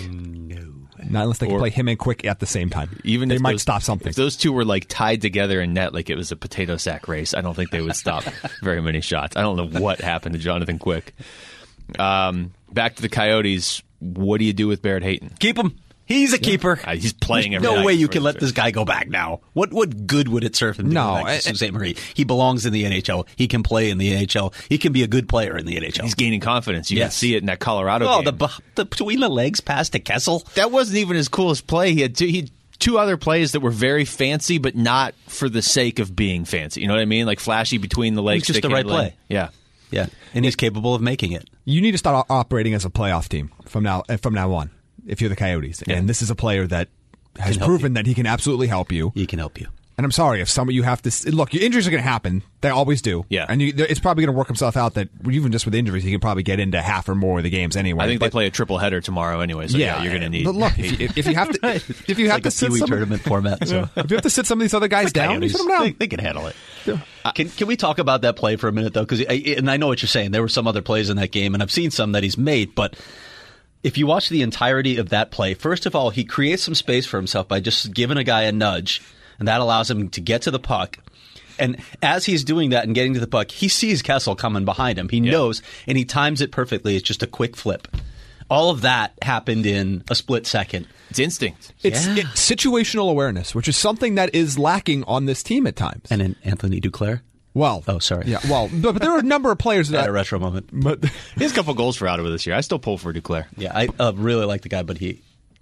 Not unless they can Or- play him and Quick at the same time. Even they if might those, stop something. If those two were like tied together in net like it was a potato sack race, I don't think they would stop very many shots. I don't know what happened to Jonathan Quick. Um, back to the Coyotes. What do you do with Barrett Hayton? Keep him. He's a keeper. Uh, he's playing There's every no night way you for can the let Stars. this guy go back now. What what good would it serve him to No, go back to I- Sault Ste. Marie? He belongs in the N H L. He can play in the N H L. He can be a good player in the N H L. He's gaining confidence. You can Yes. see it in that Colorado Oh, game. the, bu- the between the legs pass to Kessel. that wasn't even his coolest play. He had two, he had two other plays that were very fancy, but not for the sake of being fancy. You know what I mean? Like flashy between the legs. just stick the right handling. play. Yeah. Yeah, and he's capable of making it. You need to start o- operating as a playoff team from now uh, from now on. If you're the Coyotes, Yeah. and this is a player that has Can help proven you. that he can absolutely help you. He can help you. And I'm sorry if some of you have to s- look. Your injuries are going to happen; they always do. Yeah. and you, there- it's probably going to work himself out that even just with injuries, he can probably get into half or more of the games anyway. I think But- they play a triple header tomorrow anyway, so yeah, you're going to need. But look, if you, if you have to, if you have like to a sit Pee Wee some, tournament format. So. if you have to sit some of these other guys down, you sit them They, down. they can handle it. Uh, Can can we talk about that play for a minute though? Because and I know what you're saying. There were some other plays in that game, and I've seen some that he's made. But if you watch the entirety of that play, first of all, he creates some space for himself by just giving a guy a nudge, and that allows him to get to the puck. And as he's doing that and getting to the puck, he sees Kessel coming behind him. He Yeah. knows, and he times it perfectly. It's just a quick flip. All of that happened in a split second. It's instinct. It's Yeah. it, situational awareness, which is something that is lacking on this team at times. And then Anthony Duclair well, Oh, sorry. Yeah, well, but, but there are a number of players had that. a retro moment. But He has a couple goals for Ottawa this year. I still pull for Duclair. Yeah, I uh, really like the guy, but he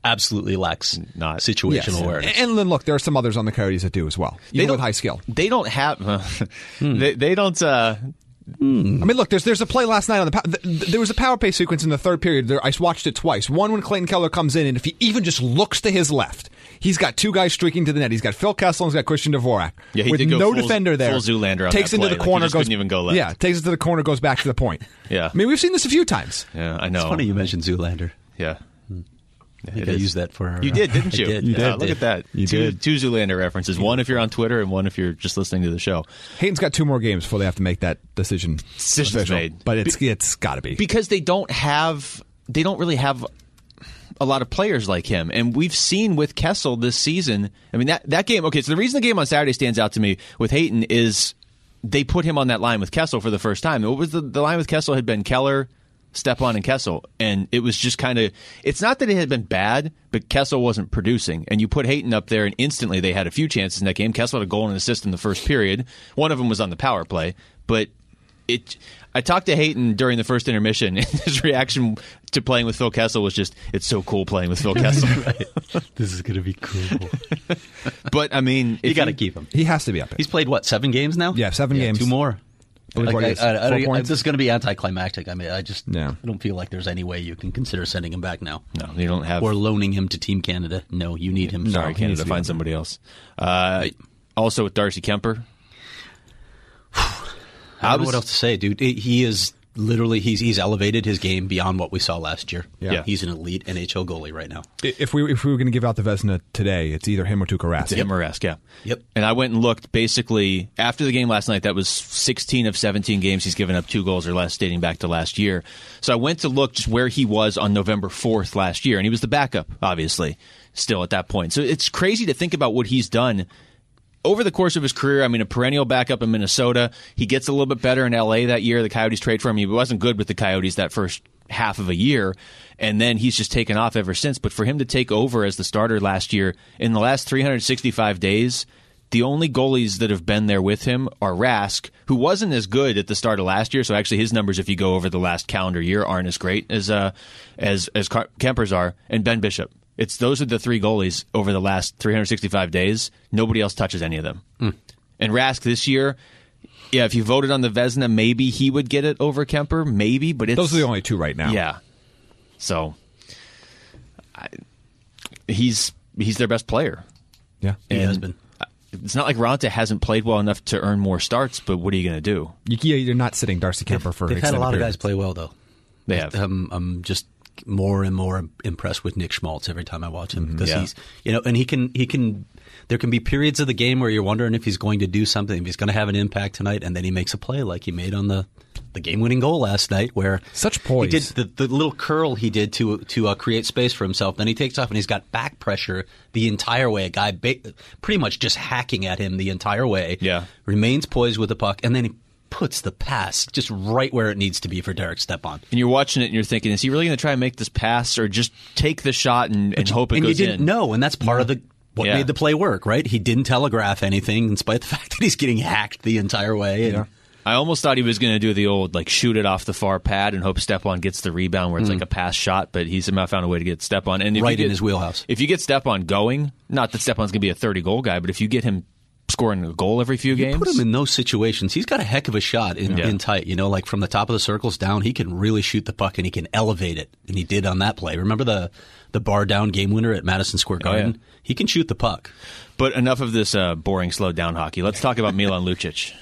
absolutely lacks Not- situational Yes. awareness. And then look, there are some others on the Coyotes that do as well, even don't- with high skill. They don't have. they, they don't. Uh, I mean, look, there's there's a play last night on the pow- th- th- there was a power play sequence in the third period. There, I watched it twice. One when Clayton Keller comes in, and if he even just looks to his left, he's got two guys streaking to the net. He's got Phil Kessel and he's got Christian Dvorak. Yeah, he with did go no full- defender there. full Zoolander on takes that into play. the Like, he corner, just goes couldn't even go left. Yeah, takes it to the corner, goes back to the point. Yeah. I mean, we've seen this a few times. yeah, I know. It's funny you mentioned Zoolander. Yeah. I think I used that for our, You did, didn't you? I did. Yeah, I look did. at that. You two, did. two Zoolander references. One if you're on Twitter, and one if you're just listening to the show. Hayton's got two more games before they have to make that decision. Decision's official. made. but it's it's got to be. Because they don't have, they don't really have a lot of players like him. And we've seen with Kessel this season, I mean, that, that game, okay, so the reason the game on Saturday stands out to me with Hayton is they put him on that line with Kessel for the first time. What was the, the line with Kessel had been Keller, Stepan, and Kessel. And it was just kind of, it's not that it had been bad, but Kessel wasn't producing. And you put Hayton up there, and instantly they had a few chances in that game. Kessel had a goal and an assist in the first period. One of them was on the power play. But it, I talked to Hayton during the first intermission, and his reaction to playing with Phil Kessel was just, it's so cool playing with Phil Kessel. This is going to be cool. But, I mean, You if got to keep him. He has to be up. He's played, what, seven games now? Yeah, seven games. Two more. believe Like, what it I, is. I, I, Four I, points? this is going to be anticlimactic. I mean, I just Yeah. I don't feel like there's any way you can consider sending him back now. No, you don't have. Or loaning him to Team Canada. No, you need him. Sorry, No, Canada, he needs to be find up. somebody else. Uh, Right. Also with Darcy Kemper. I don't know what else to say, dude. He- He is literally he's he's elevated his game beyond what we saw last year. Yeah. He's an elite N H L goalie right now. If we if we were going to give out the Vezina today, it's either him or Tuukka Rask. To him or Rask, yeah. Yep. And I went and looked basically after the game last night. That was sixteen of seventeen games he's given up two goals or less dating back to last year. So I went to look just where he was on November fourth last year, and he was the backup, obviously, still at that point. So it's crazy to think about what he's done over the course of his career. I mean, a perennial backup in Minnesota. He gets a little bit better in L A that year. The Coyotes trade for him. He wasn't good with the Coyotes that first half of a year, and then he's just taken off ever since. But for him to take over as the starter last year, in the last three hundred sixty-five days, the only goalies that have been there with him are Rask, who wasn't as good at the start of last year. So actually, his numbers, if you go over the last calendar year, aren't as great as uh, as as Kemper's are, and Ben Bishop. It's those are the three goalies over the last three hundred sixty-five days. Nobody else touches any of them. Mm. And Rask this year, yeah, if you voted on the Vezina, maybe he would get it over Kemper, maybe. But it's, Those are the only two right now. Yeah. So I, he's he's their best player. Yeah. He And has been. It's not like Ronta hasn't played well enough to earn more starts, but what are you going to do? You, yeah, you're not sitting Darcy Kemper for They've had a extended lot of periods. guys play well, though. They have. Um, I'm just more and more impressed with Nick Schmaltz every time I watch him because Yeah. he's, you know, and he can, he can, there can be periods of the game where you're wondering if he's going to do something, if he's going to have an impact tonight, and then he makes a play like he made on the, the game-winning goal last night, where Such poise. He did the, the little curl he did to to uh, create space for himself. Then he takes off and he's got back pressure the entire way. A guy ba- pretty much just hacking at him the entire way. Yeah. Remains poised with the puck, and then he puts the pass just right where it needs to be for Derek Stepan. And you're watching it and you're thinking, is he really going to try and make this pass or just take the shot and, and hope it and goes you didn't in? know, and that's part of the what Yeah. made the play work, right? He didn't telegraph anything, in spite of the fact that he's getting hacked the entire way. And Yeah. I almost thought he was going to do the old, like, shoot it off the far pad and hope Stepan gets the rebound where it's like a pass shot, but he somehow found a way to get Stepan. And if Mm. Right you get, in his wheelhouse. If you get Stepan going, not that Stepan's going to be a thirty-goal guy, but if you get him scoring a goal every few games. Put him in those situations. He's got a heck of a shot in, Yeah. in tight. You know, like from the top of the circles down, he can really shoot the puck and he can elevate it. And he did on that play. Remember the the bar down game winner at Madison Square Garden? Oh, yeah. He can shoot the puck. But enough of this uh, boring, slowed down hockey. Let's talk about Milan Lucic.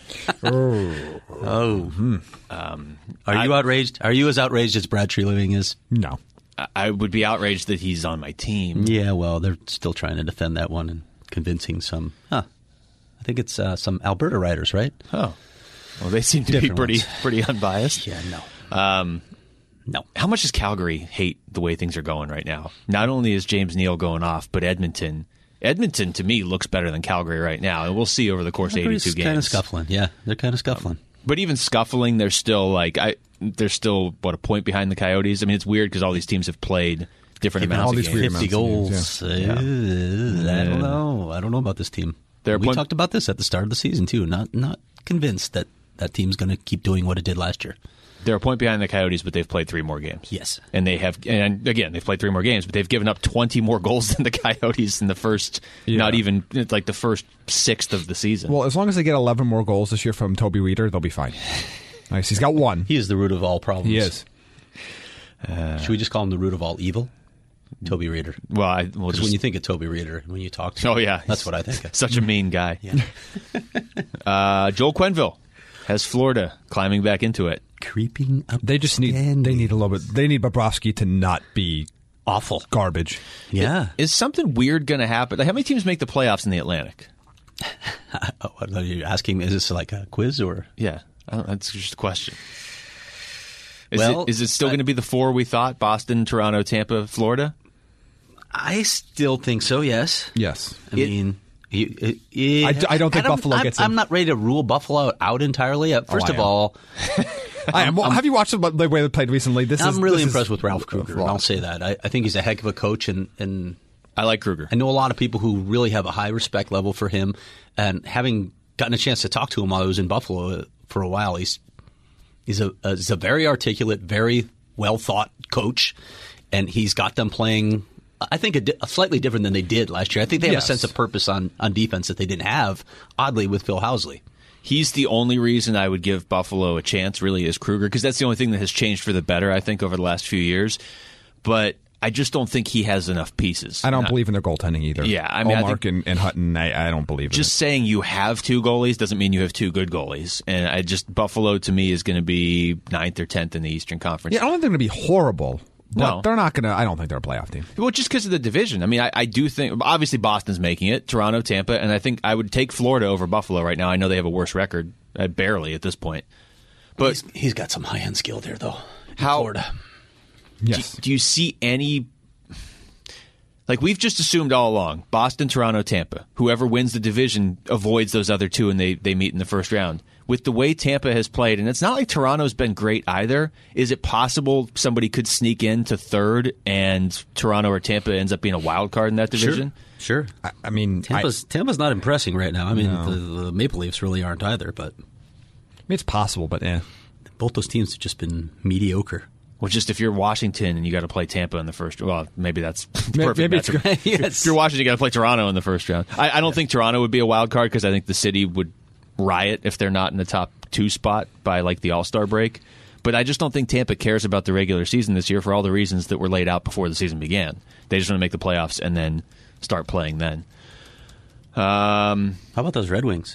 Oh, hmm. um, are you outraged? Are you as outraged as Brad Treliving is? No. I- I would be outraged that he's on my team. Yeah, well, they're still trying to defend that one and convincing some. Huh. I think it's uh, some Alberta writers, right? Oh. Well, they seem to Different be pretty ones. pretty unbiased. Yeah, no. Um, No. How much does Calgary hate the way things are going right now? Not only is James Neal going off, but Edmonton. Edmonton, to me, looks better than Calgary right now, and we'll see over the course of eighty-two games. kind of scuffling. Yeah, they're kind of scuffling. But even scuffling, they're still like I. They're still what a point behind the Coyotes. I mean, it's weird because all these teams have played different Given amounts all of these games. weird fifty amounts of goals. games, Uh, I don't know. I don't know about this team. They're we point- talked about this at the start of the season too. Not not convinced that that team's going to keep doing what it did last year. They're a point behind the Coyotes, but they've played three more games. Yes. And they have, and again, they've played three more games, but they've given up twenty more goals than the Coyotes in the first, Yeah. not even, like the first sixth of the season. Well, as long as they get eleven more goals this year from Toby Reeder, they'll be fine. Nice. He's got one. He is the root of all problems. He is. Uh, Should we just call him the root of all evil? Toby Reeder. Well, I, we'll Because just, when you think of Toby Reeder, when you talk to him, oh yeah, that's what I think of. Such a mean guy. Yeah. uh, Joel Quenneville has Florida climbing back into it. Creeping up. They just need. They need a little bit. They need Bobrovsky to not be awful garbage. Yeah. Is something weird going to happen? Like, how many teams make the playoffs in the Atlantic? Oh, what are you asking? Is this like a quiz or? Yeah, I don't, that's just a question. Is, Well, it, is it still I- going to be the four we thought? Boston, Toronto, Tampa, Florida? I still think so. Yes. Yes. I It- mean. You, it, it, I d- I don't think Buffalo I'm, gets I'm in. not ready to rule Buffalo out entirely. Uh, First I of am. all, I am. Well, have you watched the the way they played recently? This I'm is, really this impressed is, with Ralph Kruger. And I'll say that. I, I think he's a heck of a coach, and, and I like Kruger. I know a lot of people who really have a high respect level for him. And having gotten a chance to talk to him while I was in Buffalo for a while, he's he's a, a he's a very articulate, very well thought coach, and he's got them playing. I think a, di- a slightly different than they did last year. I think they have Yes. a sense of purpose on, on defense that they didn't have, oddly, with Phil Housley. He's the only reason I would give Buffalo a chance, really, is Kruger, because that's the only thing that has changed for the better, I think, over the last few years. But I just don't think he has enough pieces. I don't Not- believe in their goaltending either. Yeah, I mean, I Allmark think- and, and Hutton, I, I don't believe Just in saying you have two goalies doesn't mean you have two good goalies. And I just Buffalo, to me, is going to be ninth or tenth in the Eastern it. Conference. Yeah, I don't think they're going to be horrible. But No. they're not going to. I don't think they're a playoff team. Well, just because of the division. I mean, I, I do think, obviously, Boston's making it, Toronto, Tampa, and I think I would take Florida over Buffalo right now. I know they have a worse record, uh, barely at this point. But he's, he's got some high end skill there, though. in How- Florida. Yes. do, do you see any. Like, we've just assumed all along Boston, Toronto, Tampa. Whoever wins the division avoids those other two, and they, they meet in the first round. With the way Tampa has played, and it's not like Toronto's been great either, is it possible somebody could sneak into third and Toronto or Tampa ends up being a wild card in that division? Sure. I, I mean, I, I Tampa's, Tampa's not impressing right now. I mean, the, the Maple Leafs really aren't either, but mean, it's possible, but yeah. both those teams have just been mediocre. Well, just if you're Washington and you got to play Tampa in the first, well, maybe that's Maybe- perfect. maybe it's matchup. good. Yes. If you're Washington, you got to play Toronto in the first round. I, I don't think Toronto would be a wild card because I think the city would riot if they're not in the top two spot by like the All-Star break. But I just don't think Tampa cares about the regular season this year for all the reasons that were laid out before the season began. They just want to make the playoffs and then start playing then. Um, How about those Red Wings?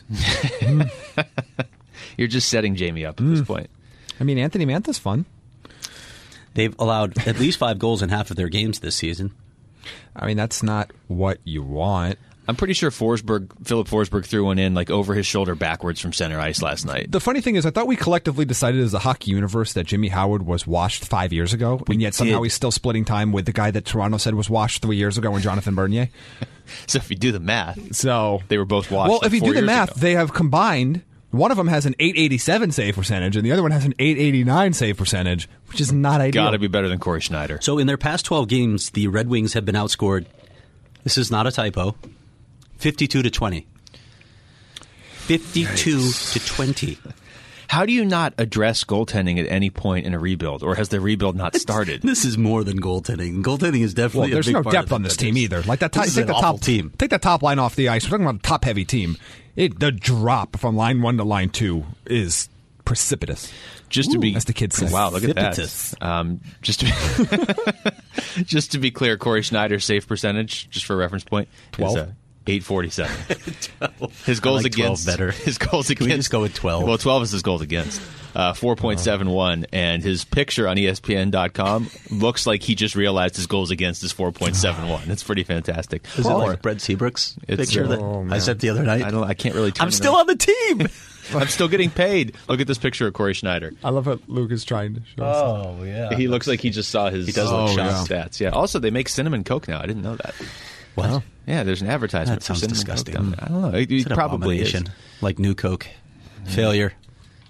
you're just setting Jamie up at this point. I mean, Anthony Manta's fun. They've allowed at least five goals in half of their games this season. I mean, that's not what you want. I'm pretty sure Forsberg, Philip Forsberg threw one in like over his shoulder backwards from center ice last night. The funny thing is, I thought we collectively decided as a hockey universe that Jimmy Howard was washed five years ago, and yet somehow did. he's still splitting time with the guy that Toronto said was washed three years ago, and Jonathan Bernier. So if you do the math, So they were both washed. well, like if you four do the years math, ago. they have combined. One of them has an eight eighty-seven save percentage, and the other one has an eight eighty-nine save percentage, which is not ideal. got to be better than Corey Schneider. So in their past twelve games, the Red Wings have been outscored. This is not a typo. fifty-two to twenty. fifty-two to twenty. How do you not address goaltending at any point in a rebuild, or has the rebuild not started? This is more than goaltending. Goaltending is Well, definitely there's a big no part depth of it, on this but team there's- either. Like that, top, this is take an the awful top team. Take the top line off the ice. We're talking about a top heavy team. It, the drop from line one to line two is precipitous. Just to be, as the kids say. Wow, look at Precipitous. that. Um, just to be, just to be clear, Corey Schneider's save percentage, just for a reference point, twelve? is uh, eight forty-seven. His goals I like twelve against better. His goals against. Can we just go with twelve? Well, twelve is his goals against. Uh, four point seven one, and his picture on E S P N dot com looks like he just realized his goals against is four point seven one. It's pretty fantastic. Is it Or- like Brett Seabrook's It's, picture uh, that oh, I man. sent the other night? I don't. I can't really. Turn I'm it still on. on the team. I'm still getting paid. Look at this picture of Corey Schneider. I love what Luke is trying to show us. Oh yeah. He looks like he just saw his He does look shot shocked. stats. Yeah. Also, they make cinnamon Coke now. I didn't know that. What? Yeah, there's an advertisement. That for sounds cinnamon disgusting. Coke down there. I don't know. It, It's it an probably is. abomination. Like New Coke. Failure.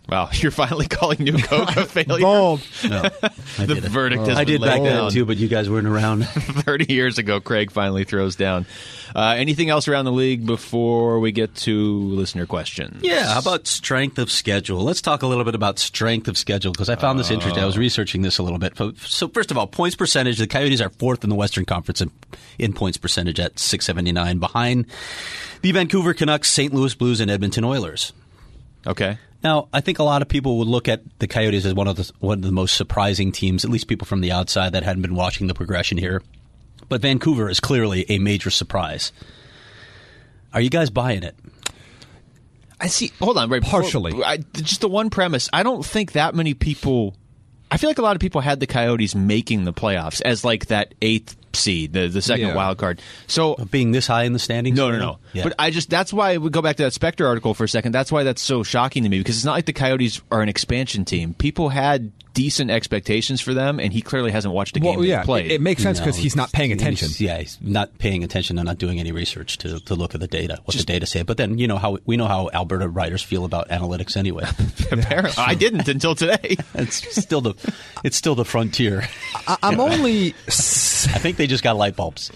Wow, you're finally calling New Coke a failure? Bold. No, I The did it. verdict has I been did back laid then down. too, but you guys weren't around. thirty years ago, Craig finally throws down. Uh, anything else around the league before we get to listener questions? Yeah, how about strength of schedule? Let's talk a little bit about strength of schedule because I found this interesting. I was researching this a little bit. So first of all, points percentage. The Coyotes are fourth in the Western Conference in, in points percentage at six seventy-nine, behind the Vancouver Canucks, Saint Louis Blues, and Edmonton Oilers. Okay. Now, I think a lot of people would look at the Coyotes as one of the one of the most surprising teams, at least people from the outside that hadn't been watching the progression here. But Vancouver is clearly a major surprise. Are you guys buying it? I see. Hold on, right? before- Partially. I, just the one premise. I don't think that many people. I feel like a lot of people had the Coyotes making the playoffs as like that eighth seed, the the second Yeah. wild card. So Being this high in the standings? no, no, no. Yeah. But I just that's why we go back to that Spectre article for a second. That's why that's so shocking to me because it's not like the Coyotes are an expansion team. People had decent expectations for them, and he clearly hasn't watched a game Well, they've yeah, played. it, it makes sense No, because he's not paying he's- attention. Yeah, he's not paying attention and not doing any research to, to look at the data, what the data say. But then, you know how we know how Alberta writers feel about analytics anyway. Apparently, I didn't until today. It's still the it's still the frontier. I, I'm only I think they just got light bulbs.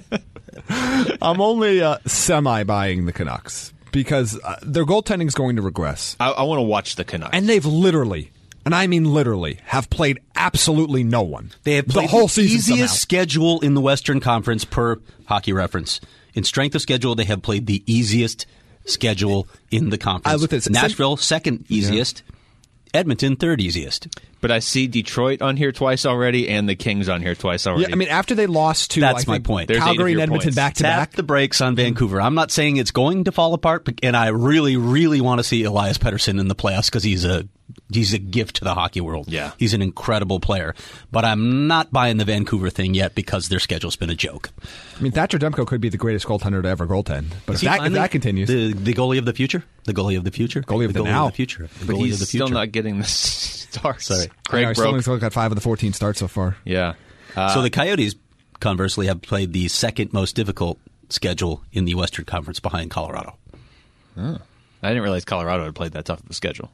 I'm only uh, semi buying the Canucks because uh, their goaltending is going to regress, I, I want to watch the Canucks. and they've literally, and I mean literally, have played absolutely no one. They have played the whole the season. easiest somehow. schedule in the Western Conference per Hockey Reference. In strength of schedule, they have played the easiest schedule in the conference. I looked at- Nashville, second easiest. Edmonton, third easiest. But I see Detroit on here twice already, and the Kings on here twice already. Yeah, I mean, after they lost to That's I my think, point. There's eight Calgary of and your Edmonton points. back to Tap back. the brakes on Vancouver. I'm not saying it's going to fall apart, but, and I really, really want to see Elias Pettersson in the playoffs because he's a he's a gift to the hockey world. Yeah. He's an incredible player. But I'm not buying the Vancouver thing yet because their schedule's been a joke. I mean, Thatcher Demko could be the greatest goaltender to ever goaltend, but Is if he that, if finally that continues, the, the goalie of the future, the goalie of the future, Goalie of the now. future, the but goalie he's of the future. still not getting the starts. Sorry. I know, Craig he's still broke. only got five of the fourteen starts so far. Yeah. Uh, so the Coyotes, conversely, have played the second most difficult schedule in the Western Conference behind Colorado. I didn't realize Colorado had played that tough of a schedule.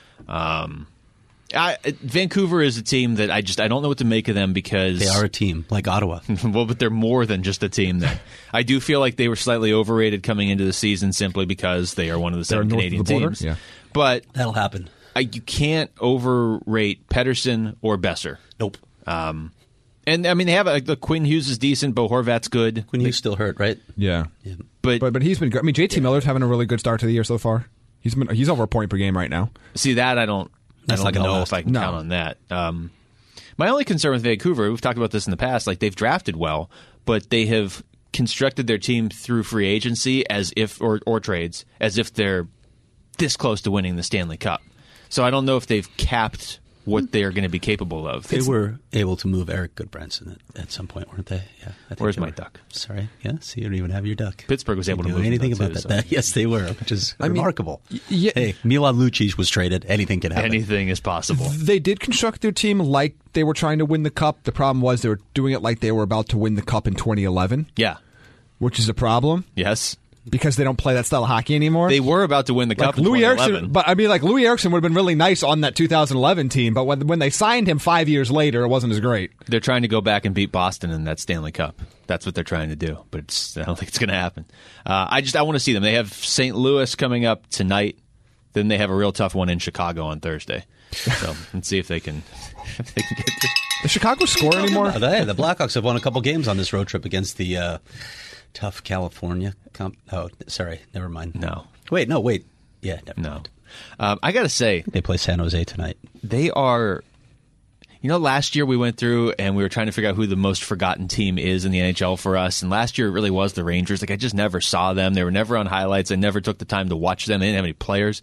Um, I, Vancouver is a team that I just I don't know what to make of them because They are a team like Ottawa. well, but they're more than just a team. That I do feel like they were slightly overrated coming into the season simply because they are one of the seven north of Canadian the border? teams. Yeah. But That'll happen. I, you can't overrate Pettersson or Besser. Nope. Um, and I mean they have a, the Quinn Hughes is decent, Bo Horvat's good, Quinn Hughes still hurt, right? Yeah, but, but but he's been good. I mean, J T Miller's having a really good start to the year so far. He's been he's over a point per game right now. see that I don't That's I not don't gonna know last. if I can No. count on that. Um, my only concern with Vancouver, we've talked about this in the past, like they've drafted well, but they have constructed their team through free agency as if or or trades as if they're this close to winning the Stanley Cup. So I don't know if they've capped what they're going to be capable of. They were able to move Eric Goodbranson at, at some point, weren't they? Yeah. I think Where's they my were. duck? Sorry. Yeah. So you don't even have your duck. Pittsburgh was able to Do move him, anything though, about too, that. so. That- Yes, they were, which is mean, remarkable. yeah. Hey, Milan Lucic was traded. Anything can happen. Anything is possible. They did construct their team like they were trying to win the cup. The problem was they were doing it like they were about to win the cup in twenty eleven, Yeah. which is a problem Yes. because they don't play that style of hockey anymore. They were about to win the like cup in Louis twenty Erickson, eleven. but I mean, like Louis Erickson would have been really nice on that two thousand eleven team, but when when they signed him five years later, it wasn't as great. They're trying to go back and beat Boston in that Stanley Cup. That's what they're trying to do, but it's, I don't think it's going to happen. Uh, I just I want to see them. They have Saint Louis coming up tonight. Then they have a real tough one in Chicago on Thursday. So let's see if they can if they can get through. Does Chicago score anymore? Oh, they- the Blackhawks have won a couple games on this road trip against the uh, tough California. Comp- oh, sorry. Never mind. No. Wait, no, wait. Yeah, never No. mind. Um, I got to say, They play San Jose tonight. they are. You know, last year we went through and we were trying to figure out who the most forgotten team is in the N H L for us. And last year it really was the Rangers. Like I just never saw them. They were never on highlights. I never took the time to watch them. They didn't have any players.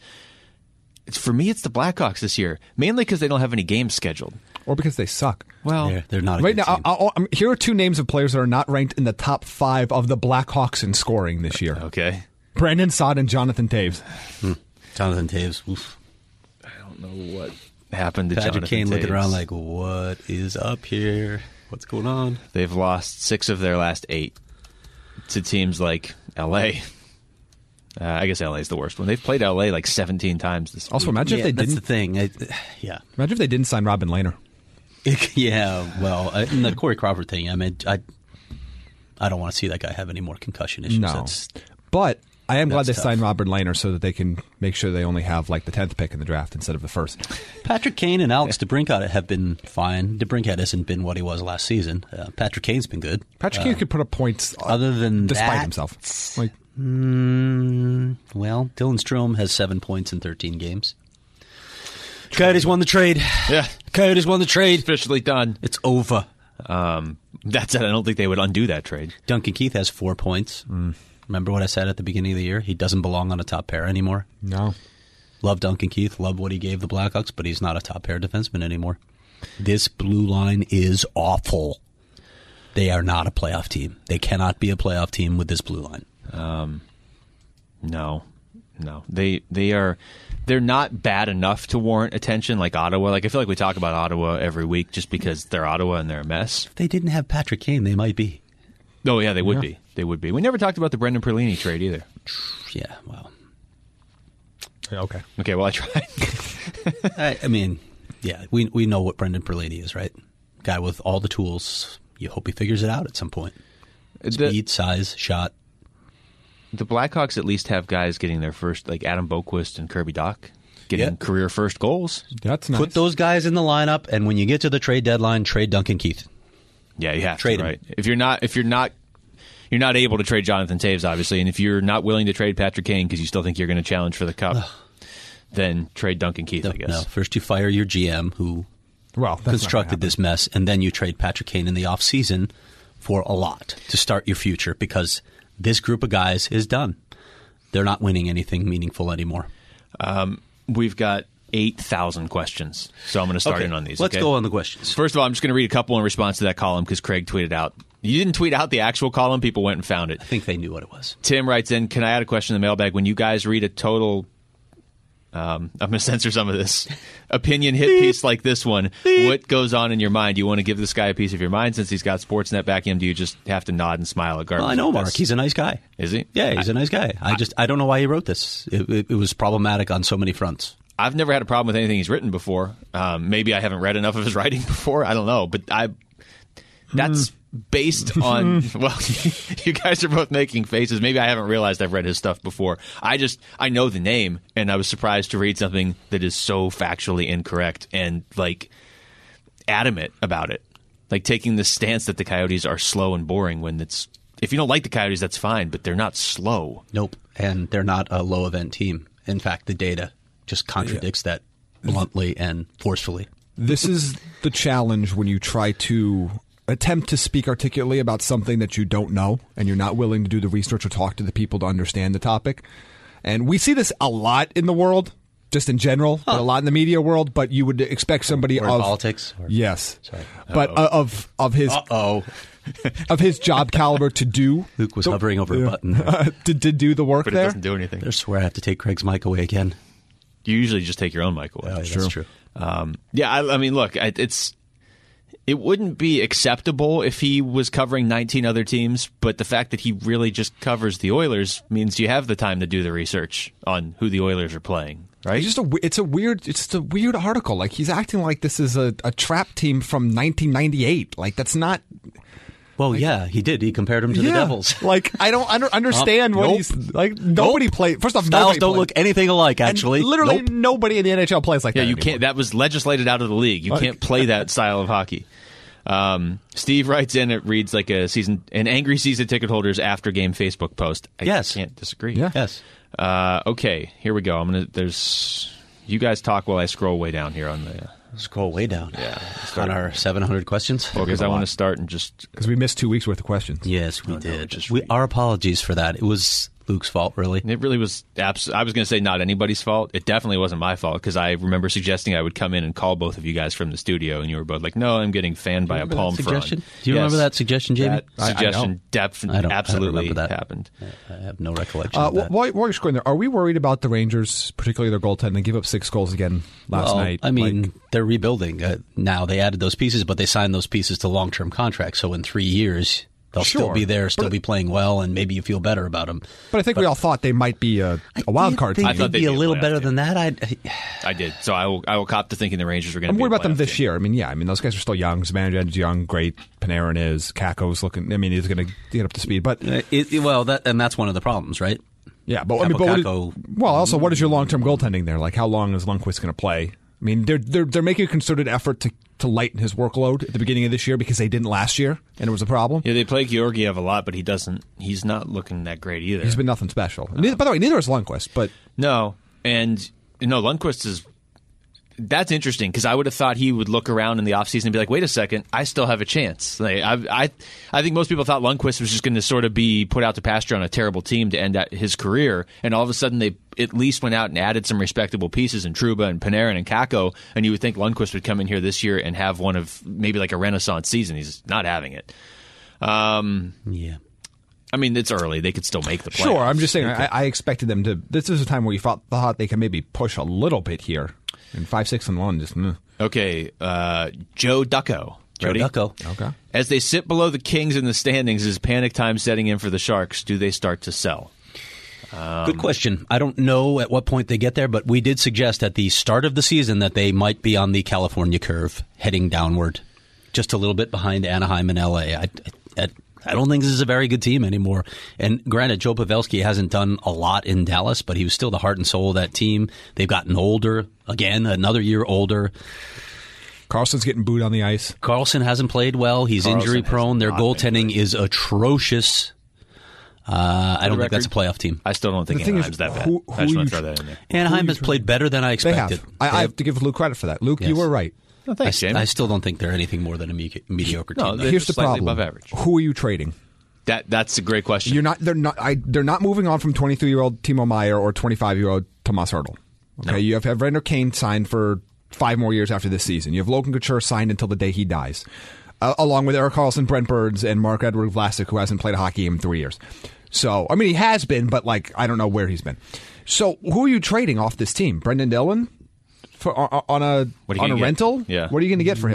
It's, for me, it's the Blackhawks this year, mainly because they don't have any games scheduled. Or because they suck? Well, They're, they're not a Right good now, team. I'll, I'll, I'm- here are two names of players that are not ranked in the top five of the Blackhawks in scoring this year. okay. Brandon Saad and Jonathan Taves. Jonathan Taves. Oof. I don't know what happened to Patrick Jonathan Kane looking Taves. around like, what is up here? What's going on? They've lost six of their last eight to teams like L A, Uh, I guess L A is the worst one. They've played L A like seventeen times this Also, week. imagine yeah, if they that's didn't. the thing. I, yeah. Imagine if they didn't sign Robin Lehner. yeah, well, uh, and the Corey Crawford thing, I mean, I I don't want to see that guy have any more concussion issues. No. That's, But I am glad they That's tough. signed Robin Lehner so that they can make sure they only have like the tenth pick in the draft instead of the first. Patrick Kane and Alex DeBrincat have been fine. DeBrincat hasn't been what he was last season. Uh, Patrick Kane's been good. Patrick Kane could put up points uh, Other than despite that, himself. Like, Mm, well, Dylan Strome has seven points in thirteen games. Coyotes won the trade. Yeah. Coyotes won the trade. Officially done. It's over. Um, that said, I don't think they would undo that trade. Duncan Keith has four points. Mm. Remember what I said at the beginning of the year? He doesn't belong on a top pair anymore. no. Love Duncan Keith. Love what he gave the Blackhawks, but he's not a top pair defenseman anymore. This blue line is awful. They are not a playoff team. They cannot be a playoff team with this blue line. Um, no, no, they they are they're not bad enough to warrant attention like Ottawa. Like I feel like we talk about Ottawa every week just because they're Ottawa and they're a mess. If they didn't have Patrick Kane, they might be. Oh yeah, they would Yeah. be. They would be. We never talked about the Brendan Perlini trade either. Yeah, well, Yeah, okay. Okay, well I tried. I, I mean, yeah, we we know what Brendan Perlini is, right? Guy with all the tools. You hope he figures it out at some point. Speed, the, size, shot. the Blackhawks at least have guys getting their first, like Adam Boquist and Kirby Doc, getting Yeah. career first goals. That's nice. Put those guys in the lineup, and when you get to the trade deadline, trade Duncan Keith. Yeah, you have Trade to, him. right? If you're not, if you're not, you're not able to trade Jonathan Taves, obviously, and if you're not willing to trade Patrick Kane because you still think you're going to challenge for the cup, then trade Duncan Keith. No, I guess. no, first you fire your G M who well, that's not constructed gonna this mess, and then you trade Patrick Kane in the offseason for a lot to start your future because this group of guys is done. They're not winning anything meaningful anymore. Um, we've got eight thousand questions, so I'm going to start Okay, in on these. Let's okay? go on the questions. First of all, I'm just going to read a couple in response to that column because Craig tweeted out. You didn't tweet out the actual column. People went and found it. I think they knew what it was. Tim writes in, can I add a question in the mailbag? When you guys read a total, um, I'm going to censor some of this, opinion hit piece like this one, what goes on in your mind? Do you want to give this guy a piece of your mind since he's got Sportsnet backing him? Do you just have to nod and smile at garbage? Well, I know like Mark. this? He's a nice guy. Is he? Yeah, he's a nice guy. I just I don't know why he wrote this. It, it, it was problematic on so many fronts. I've never had a problem with anything he's written before. Um, maybe I haven't read enough of his writing before. I don't know. But I that's based on, well, you guys are both making faces. Maybe I haven't realized I've read his stuff before. I just, I know the name, and I was surprised to read something that is so factually incorrect and, like, adamant about it. Like, taking the stance that the Coyotes are slow and boring when it's, if you don't like the Coyotes, that's fine, but they're not slow. Nope. And they're not a low event team. In fact, the data just contradicts that bluntly and forcefully. This is the challenge when you try to attempt to speak articulately about something that you don't know and you're not willing to do the research or talk to the people to understand the topic. And we see this a lot in the world, just in general, but a lot in the media world, but you would expect somebody Or in of politics. Or, yes. Sorry. But uh, of of his Uh-oh. of his job caliber to do Luke was the- hovering over yeah. a button. to, to do the work But it there. doesn't do anything. I swear I have to take Craig's mic away again. You usually just take your own mic away. Oh, yeah, that's true. Um, yeah, I, I mean, look, I- it's it wouldn't be acceptable if he was covering nineteen other teams, but the fact that he really just covers the Oilers means you have the time to do the research on who the Oilers are playing, right? It's just a we- it's a weird it's just a weird article. Like he's acting like this is a, a trap team from nineteen ninety-eight. Like that's not. Well, yeah, he did. He compared him to the Yeah. Devils. Like I don't under, understand Um, what nope. he's like. Nobody Nope. played. First off, Styles nobody don't played. look anything alike, And actually. literally Nope. nobody in the N H L plays like yeah, that. you anymore. can't. That was legislated out of the league. You Like- can't play that style of hockey. Um, Steve writes in. It reads like a season, an angry season ticket holders after game Facebook post. I Yes. can't disagree. Yeah. Yes. Uh, okay, here we go. I'm gonna. There's. You guys talk while I scroll way down here on the. Uh, Scroll way down. Yeah. On our seven hundred questions. well, because I want to start and just. because we missed two weeks worth of questions. Yes, we no, did. just we, read. our apologies for that. It was Luke's fault, really. It really was. Abs- I was going to say not anybody's fault. It definitely wasn't my fault because I remember suggesting I would come in and call both of you guys from the studio, and you were both like, "No, I'm getting fanned by a Remember palm that frond." suggestion? Do you Yes. remember that suggestion, Jamie? That I- I suggestion don't. def- I don't- I don't absolutely remember that. happened. I have no recollection Uh, of that. while, while you're scrolling there, are we worried about the Rangers, particularly their goaltending? They give up six goals again last well, night. I mean, Like, they're rebuilding uh, now. They added those pieces, but they signed those pieces to long-term contracts. So in three years, They'll Sure. still be there, still But- be playing well, and maybe you feel better about them. But I think we all thought they might be a, a wild card team. I thought they'd they'd be a be a little playoff better team. than that. I'd, I did. So I will, I will cop to thinking the Rangers were going to I'm be worried a about them playoff this team. year. I mean, yeah, I mean, those guys are still young. Zibanejad's young, great. Panarin is. Kako's looking, I mean, he's going to get up to speed. But, it, it- well, that and that's one of the problems, right? yeah, but, I mean, but what is, Kako- well, also, what is your long term goaltending there? Like, how long is Lundqvist going to play? I mean, they're, they're, they're making a concerted effort to, to lighten his workload at the beginning of this year because they didn't last year, and it was a problem. Yeah, they play Georgiev a lot, but he doesn't. He's not looking that great either. He's been nothing special. Neither, by the way, neither is Lundqvist, but No, and no, Lundqvist is. That's interesting because I would have thought he would look around in the offseason and be like, "Wait a second, I still have a chance." Like, I, I, I think most people thought Lundqvist was just going to sort of be put out to pasture on a terrible team to end out his career, and all of a sudden they at least went out and added some respectable pieces in Trouba and Panarin and Kakko, and you would think Lundqvist would come in here this year and have one of maybe like a renaissance season. He's not having it. Um, Yeah. I mean, it's early; they could still make the playoffs. sure. I'm just saying, I, I expected them to. This is a time where you thought, thought they could maybe push a little bit here. And five, six, and one, just. Mm. Okay, uh, Joe Ducko. Joe Ready? Ducko. Okay. As they sit below the Kings in the standings, is panic time setting in for the Sharks? Do they start to sell? Good question. I don't know at what point they get there, but we did suggest at the start of the season that they might be on the California curve, heading downward, just a little bit behind Anaheim and L A. I, I, I don't think this is a very good team anymore. And granted, Joe Pavelski hasn't done a lot in Dallas, but he was still the heart and soul of that team. They've gotten older, again, another year older. Carlson's getting booed on the ice. Carlson hasn't played well. He's Carlson injury has prone. Their not been goaltending is atrocious. Uh, I don't the think that's a record, playoff team. I still don't think The thing is, Anaheim's that bad. who- I who just you want to tr- throw that in there. Anaheim has played better than I They expected. have. I, I have to give Luke credit for that. Luke, Yes. you were right. No, I, thanks, st- Jamie. I still don't think they're anything more than a me- mediocre No, team. they- Here's the slightly problem. above average. Who are you trading? that that's a great question. You're not. They're not. I, they're not moving on from twenty-three-year-old Timo Meyer or twenty-five-year-old Tomas Hertl. Okay, No. you have Evander Kane signed for five more years after this season. You have Logan Couture signed until the day he dies, uh, along with Erik Karlsson, Brent Burns, and Mark-Edward Vlasic, who hasn't played a hockey game in three years. So, I mean, he has been, but like I don't know where he's been. So, who are you trading off this team? Brendan Dillon for on, on a What are you on a gonna get? rental? Yeah. What are you going to get for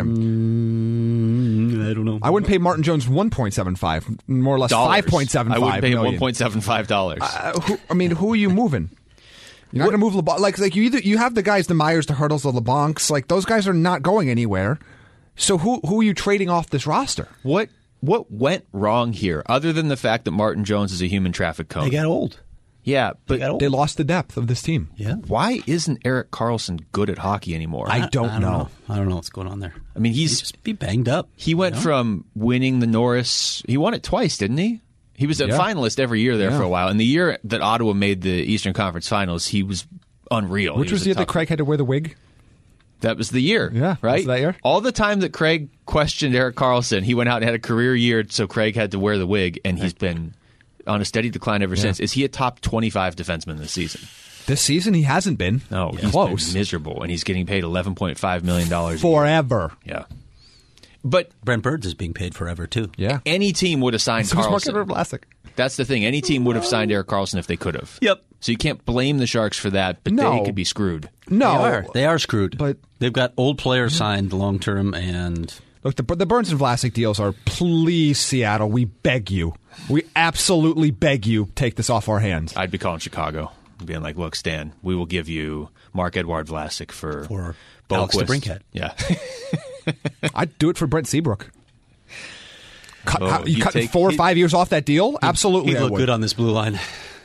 him? Mm, I don't know. I wouldn't pay Martin Jones one point seven five, more or less Dollars. five point seven I five. wouldn't pay him million. one point seven five dollars. Uh, who, I mean, who are you moving? You're not going to move LeBlanc. Like, like you either you have the guys, the Myers, the Hurdles, the LeBlancs. Like those guys are not going anywhere. So who who are you trading off this roster? What what went wrong here, other than the fact that Martin Jones is a human traffic cone? They got old. yeah, but got old. They lost the depth of this team. Yeah. why isn't Erik Karlsson good at hockey anymore? I don't know. I don't know what's going on there. I mean, He's he's just be banged up. he went you know? from winning the Norris. He won it twice, didn't he? He was a Yeah. finalist every year there Yeah. for a while. And the year that Ottawa made the Eastern Conference Finals, he was unreal. Which He was a the year that tough- Craig had to wear the wig? That was the year. Yeah, right. was that year? All the time that Craig questioned Erik Karlsson, he went out and had a career year, so Craig had to wear the wig, and he's been on a steady decline ever since. Is he a top twenty-five defenseman this season? This season he hasn't been. No, he's close. been miserable, and he's getting paid eleven point five million dollars Forever. Yeah, but Brent Burns is being paid forever too. Yeah. any team would have signed So was Mark-Edward Karlsson. Vlasic. That's the thing. Any team would have signed Erik Karlsson if they could have. Yep. So you can't blame the Sharks for that, but No. they could be screwed. No, They are. They are screwed. But- they've got old players signed long term, and Look, the, the Burns and Vlasic deals are, please, Seattle, we beg you. We absolutely beg you, take this off our hands. I'd be calling Chicago and being like, look, Stan, we will give you Mark-Edward Vlasic for, For Alex Boquist. DeBrincat. Yeah. I'd do it for Brent Seabrook. Cut, Oh, how, you you cut take- four or he- five years off that deal? Absolutely, he I looked would. good on this blue line.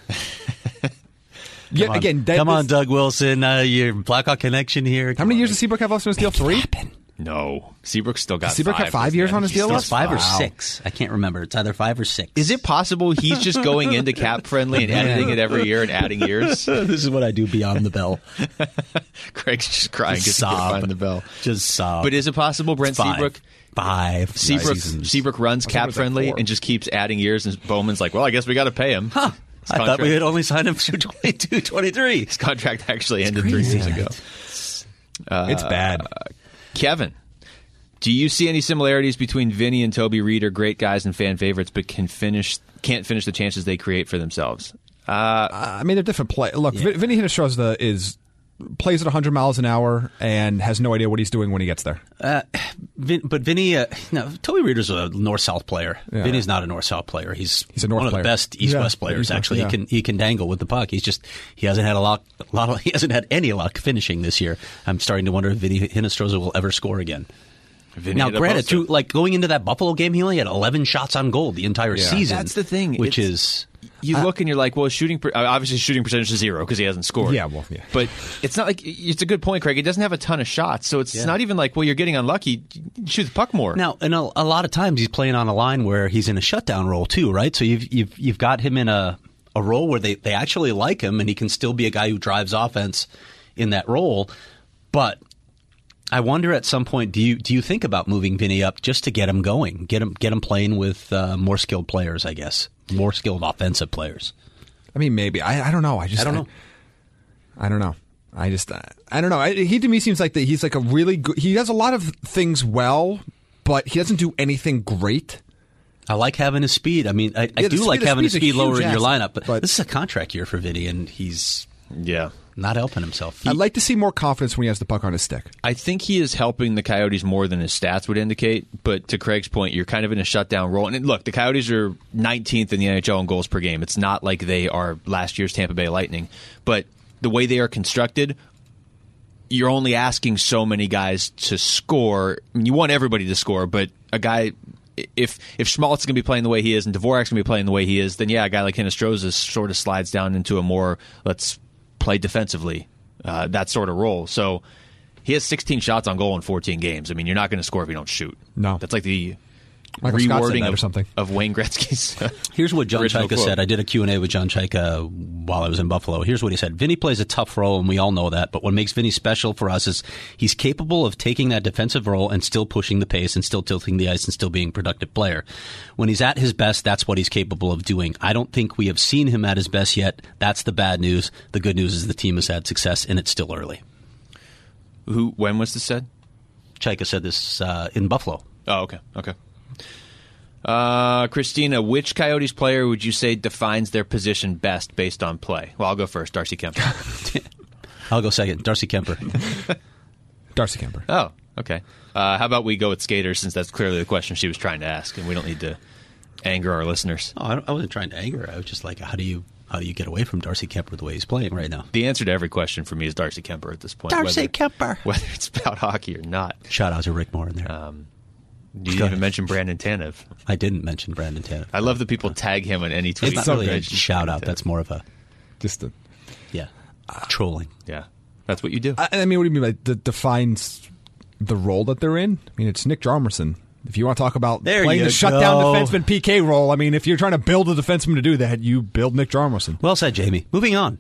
Yeah, Come on, again, that- come on, this- Doug Wilson. Uh, your Blackhawk connection here. How Come many on. years does Seabrook have left on his deal? Three? No. Seabrook still got Seabrook five. had five doesn't he? years I on think his he's deal still- left? It's five or Wow. six. I can't remember. It's either five or six. Is it possible he's just going into cap friendly and editing it every year and adding years? This is what I do beyond the bell. Craig's just crying because Just he can't sob. find the bell. Just sob. But is it possible Brent Five. Seabrook Five. Seabrook, seasons. Seabrook runs it cap was like friendly four. and just keeps adding years, and Bowman's like, well, I guess we got to pay him. Huh. His I thought contract- we had only signed him through twenty-two, twenty-three. His contract actually ended three years ago. It's bad. Kevin, do you see any similarities between Vinny and Toby Reed, are great guys and fan favorites, but can finish can't finish the chances they create for themselves? Uh, I mean, they're different play. Look, Yeah. Vinny Hinterström is plays at one hundred miles an hour and has no idea what he's doing when he gets there. Uh, Vin, but Vinny, uh, no, Toby Reeder's a north-south player. Yeah. Vinny's not a north-south player. He's, He's a north one player. of the best east-west Yeah, players. East-West, Actually, yeah. he can he can dangle with the puck. He's just he hasn't had a lot, a lot of, he hasn't had any luck finishing this year. I'm starting to wonder if Vinny Hinostroza will ever score again. Vinny Now, hit a granted, poster. through, like going into that Buffalo game, he only had eleven shots on goal the entire Yeah. season. That's the thing. which It's- is You look and you're like, well, shooting per- obviously shooting percentage is zero because he hasn't scored. Yeah, well, yeah. But it's not like it's a good point, Craig. He doesn't have a ton of shots, so it's Yeah. not even like, well, you're getting unlucky. Shoot the puck more. now, and a, a lot of times he's playing on a line where he's in a shutdown role too, right? So you've you've you've got him in a a role where they, they actually like him, and he can still be a guy who drives offense in that role. But I wonder at some point, do you do you think about moving Vinny up just to get him going, get him get him playing with uh, more skilled players? I guess more skilled offensive players. I mean, maybe. I, I don't know. I just I don't know. I, I don't know. I just I, I don't know. I, he to me seems like that he's like a really good. He does a lot of things well, but he doesn't do anything great. I like having his speed. I mean, I, I Yeah, the do speed- like the having his speed's a speed lower huge in your asset, lineup, but, but- this is a contract year for Vinny, and he's Yeah. not helping himself. He- I'd like to see more confidence when he has the puck on his stick. I think he is helping the Coyotes more than his stats would indicate. But to Craig's point, you're kind of in a shutdown role. And look, the Coyotes are nineteenth in the N H L in goals per game. It's not like they are last year's Tampa Bay Lightning. But the way they are constructed, you're only asking so many guys to score. I mean, you want everybody to score, but a guy, if if Schmaltz is going to be playing the way he is and Dvorak's going to be playing the way he is, then yeah, a guy like Hinostroza sort of slides down into a more let's play defensively, uh, that sort of role. So he has sixteen shots on goal in fourteen games. I mean, you're not going to score if you don't shoot. No. That's like the Michael Scott said rewording that or of, something. of Wayne Gretzky's. Here's what John original Chaika quote. said. I did a Q and A with John Chaika while I was in Buffalo. Here's what he said. Vinny plays a tough role, and we all know that. But what makes Vinny special for us is he's capable of taking that defensive role and still pushing the pace and still tilting the ice and still being a productive player. When he's at his best, that's what he's capable of doing. I don't think we have seen him at his best yet. That's the bad news. The good news is the team has had success, and it's still early. Who? When was this said? Chaika said this uh, in Buffalo. Oh, okay, okay. Uh, Christina, which Coyotes player would you say defines their position best based on play? Well, I'll go first. Darcy Kemper. I'll go second. Darcy Kemper. Darcy Kemper. Oh, okay. Uh, how about we go with skaters, since that's clearly the question she was trying to ask, and we don't need to anger our listeners. Oh, I, don't, I wasn't trying to anger her. I was just like, how do you how do you get away from Darcy Kemper the way he's playing right now? The answer to every question for me is Darcy Kemper at this point. Darcy whether, Kemper. Whether it's about hockey or not. Shout out to Rick Moore in there. Um, you didn't Go even ahead. mention Brandon Tanev. I didn't mention Brandon Tanev. I love that people tag him on any tweet. It's not so really good. a shout out. That's more of a Just the. yeah trolling. Yeah, that's what you do. I, I mean, what do you mean by that defines the role that they're in? I mean, it's Nick Jarmerson. If you want to talk about There playing you the shutdown go. defenseman P K role, I mean, if you're trying to build a defenseman to do that, you build Nick Jarmerson. Well said, Jamie. Moving on.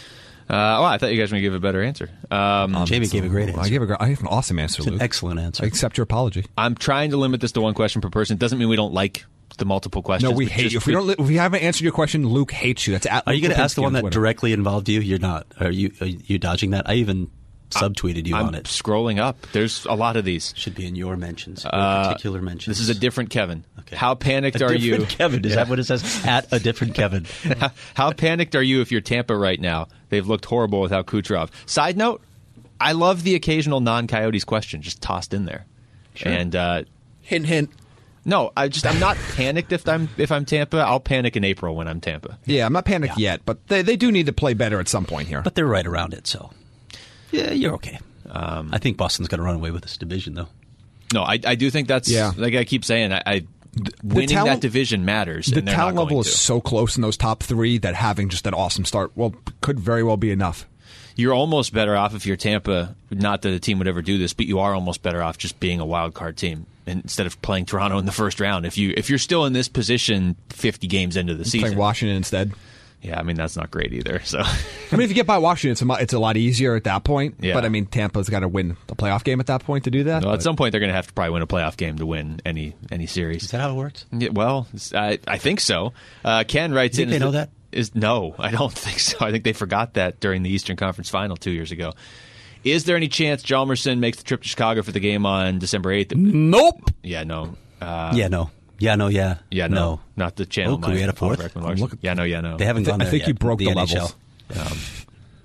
Uh, oh, I thought you guys were going to give a better answer. Um, Jamie gave a great answer. I gave a, gr- I gave an awesome answer, It's an Luke. excellent answer. I accept your apology. I'm trying to limit this to one question per person. It doesn't mean we don't like the multiple questions. No, we but hate just you. If we don't, li- if we haven't answered your question, Luke hates you. That's at Are you Luke going to ask the Lipinski one on that Twitter. directly involved you? You're not. Are you? Are you dodging that? I even subtweeted you I'm on it. scrolling up. There's a lot of these. Should be in your mentions. Your Uh, particular mentions. This is a different Kevin. Okay. How panicked A are you? different Kevin. Is Yeah. that what it says? At a different Kevin. how, how panicked are you if you're Tampa right now? They've looked horrible without Kucherov. Side note, I love the occasional non-Coyotes question just tossed in there. Sure. And uh, Hint, hint. no, I just I'm not panicked if I'm if I'm Tampa. I'll panic in April when I'm Tampa. Yeah, I'm not panicked yet, but they, they do need to play better at some point here. But they're right around it, so yeah, you're okay. Um, I think Boston's going to run away with this division, though. No, I, I do think that's Yeah. like I keep saying. I, I winning talent- that division matters. the and they're talent not level going is to. so close in those top three that having just an awesome start, well, could very well be enough. You're almost better off if you're Tampa. Not that a team would ever do this, but you are almost better off just being a wild card team instead of playing Toronto in the first round. If you if you're still in this position fifty games into the season, Playing Washington instead. yeah, I mean that's not great either. So I mean, if you get by Washington, it's a, mo- it's a lot easier at that point. Yeah. But I mean, Tampa's got to win the playoff game at that point to do that. well, but- at some point they're going to have to probably win a playoff game to win any any series. Is that how it works? Yeah, well, I, I think so. Uh, Ken writes You in. think they is know the- that? Is no, I don't think so. I think they forgot that during the Eastern Conference Final two years ago. Is there any chance Hjalmarsson makes the trip to Chicago for the game on December eighth? Nope. Yeah, no. Uh, yeah, no. Yeah, no, yeah. yeah, no. Not the channel. Oh, could we nine, add a fourth? Paul Beckman Larson. Look at- yeah, no, yeah, no. They haven't I gone there think yet. you broke the N H L. levels.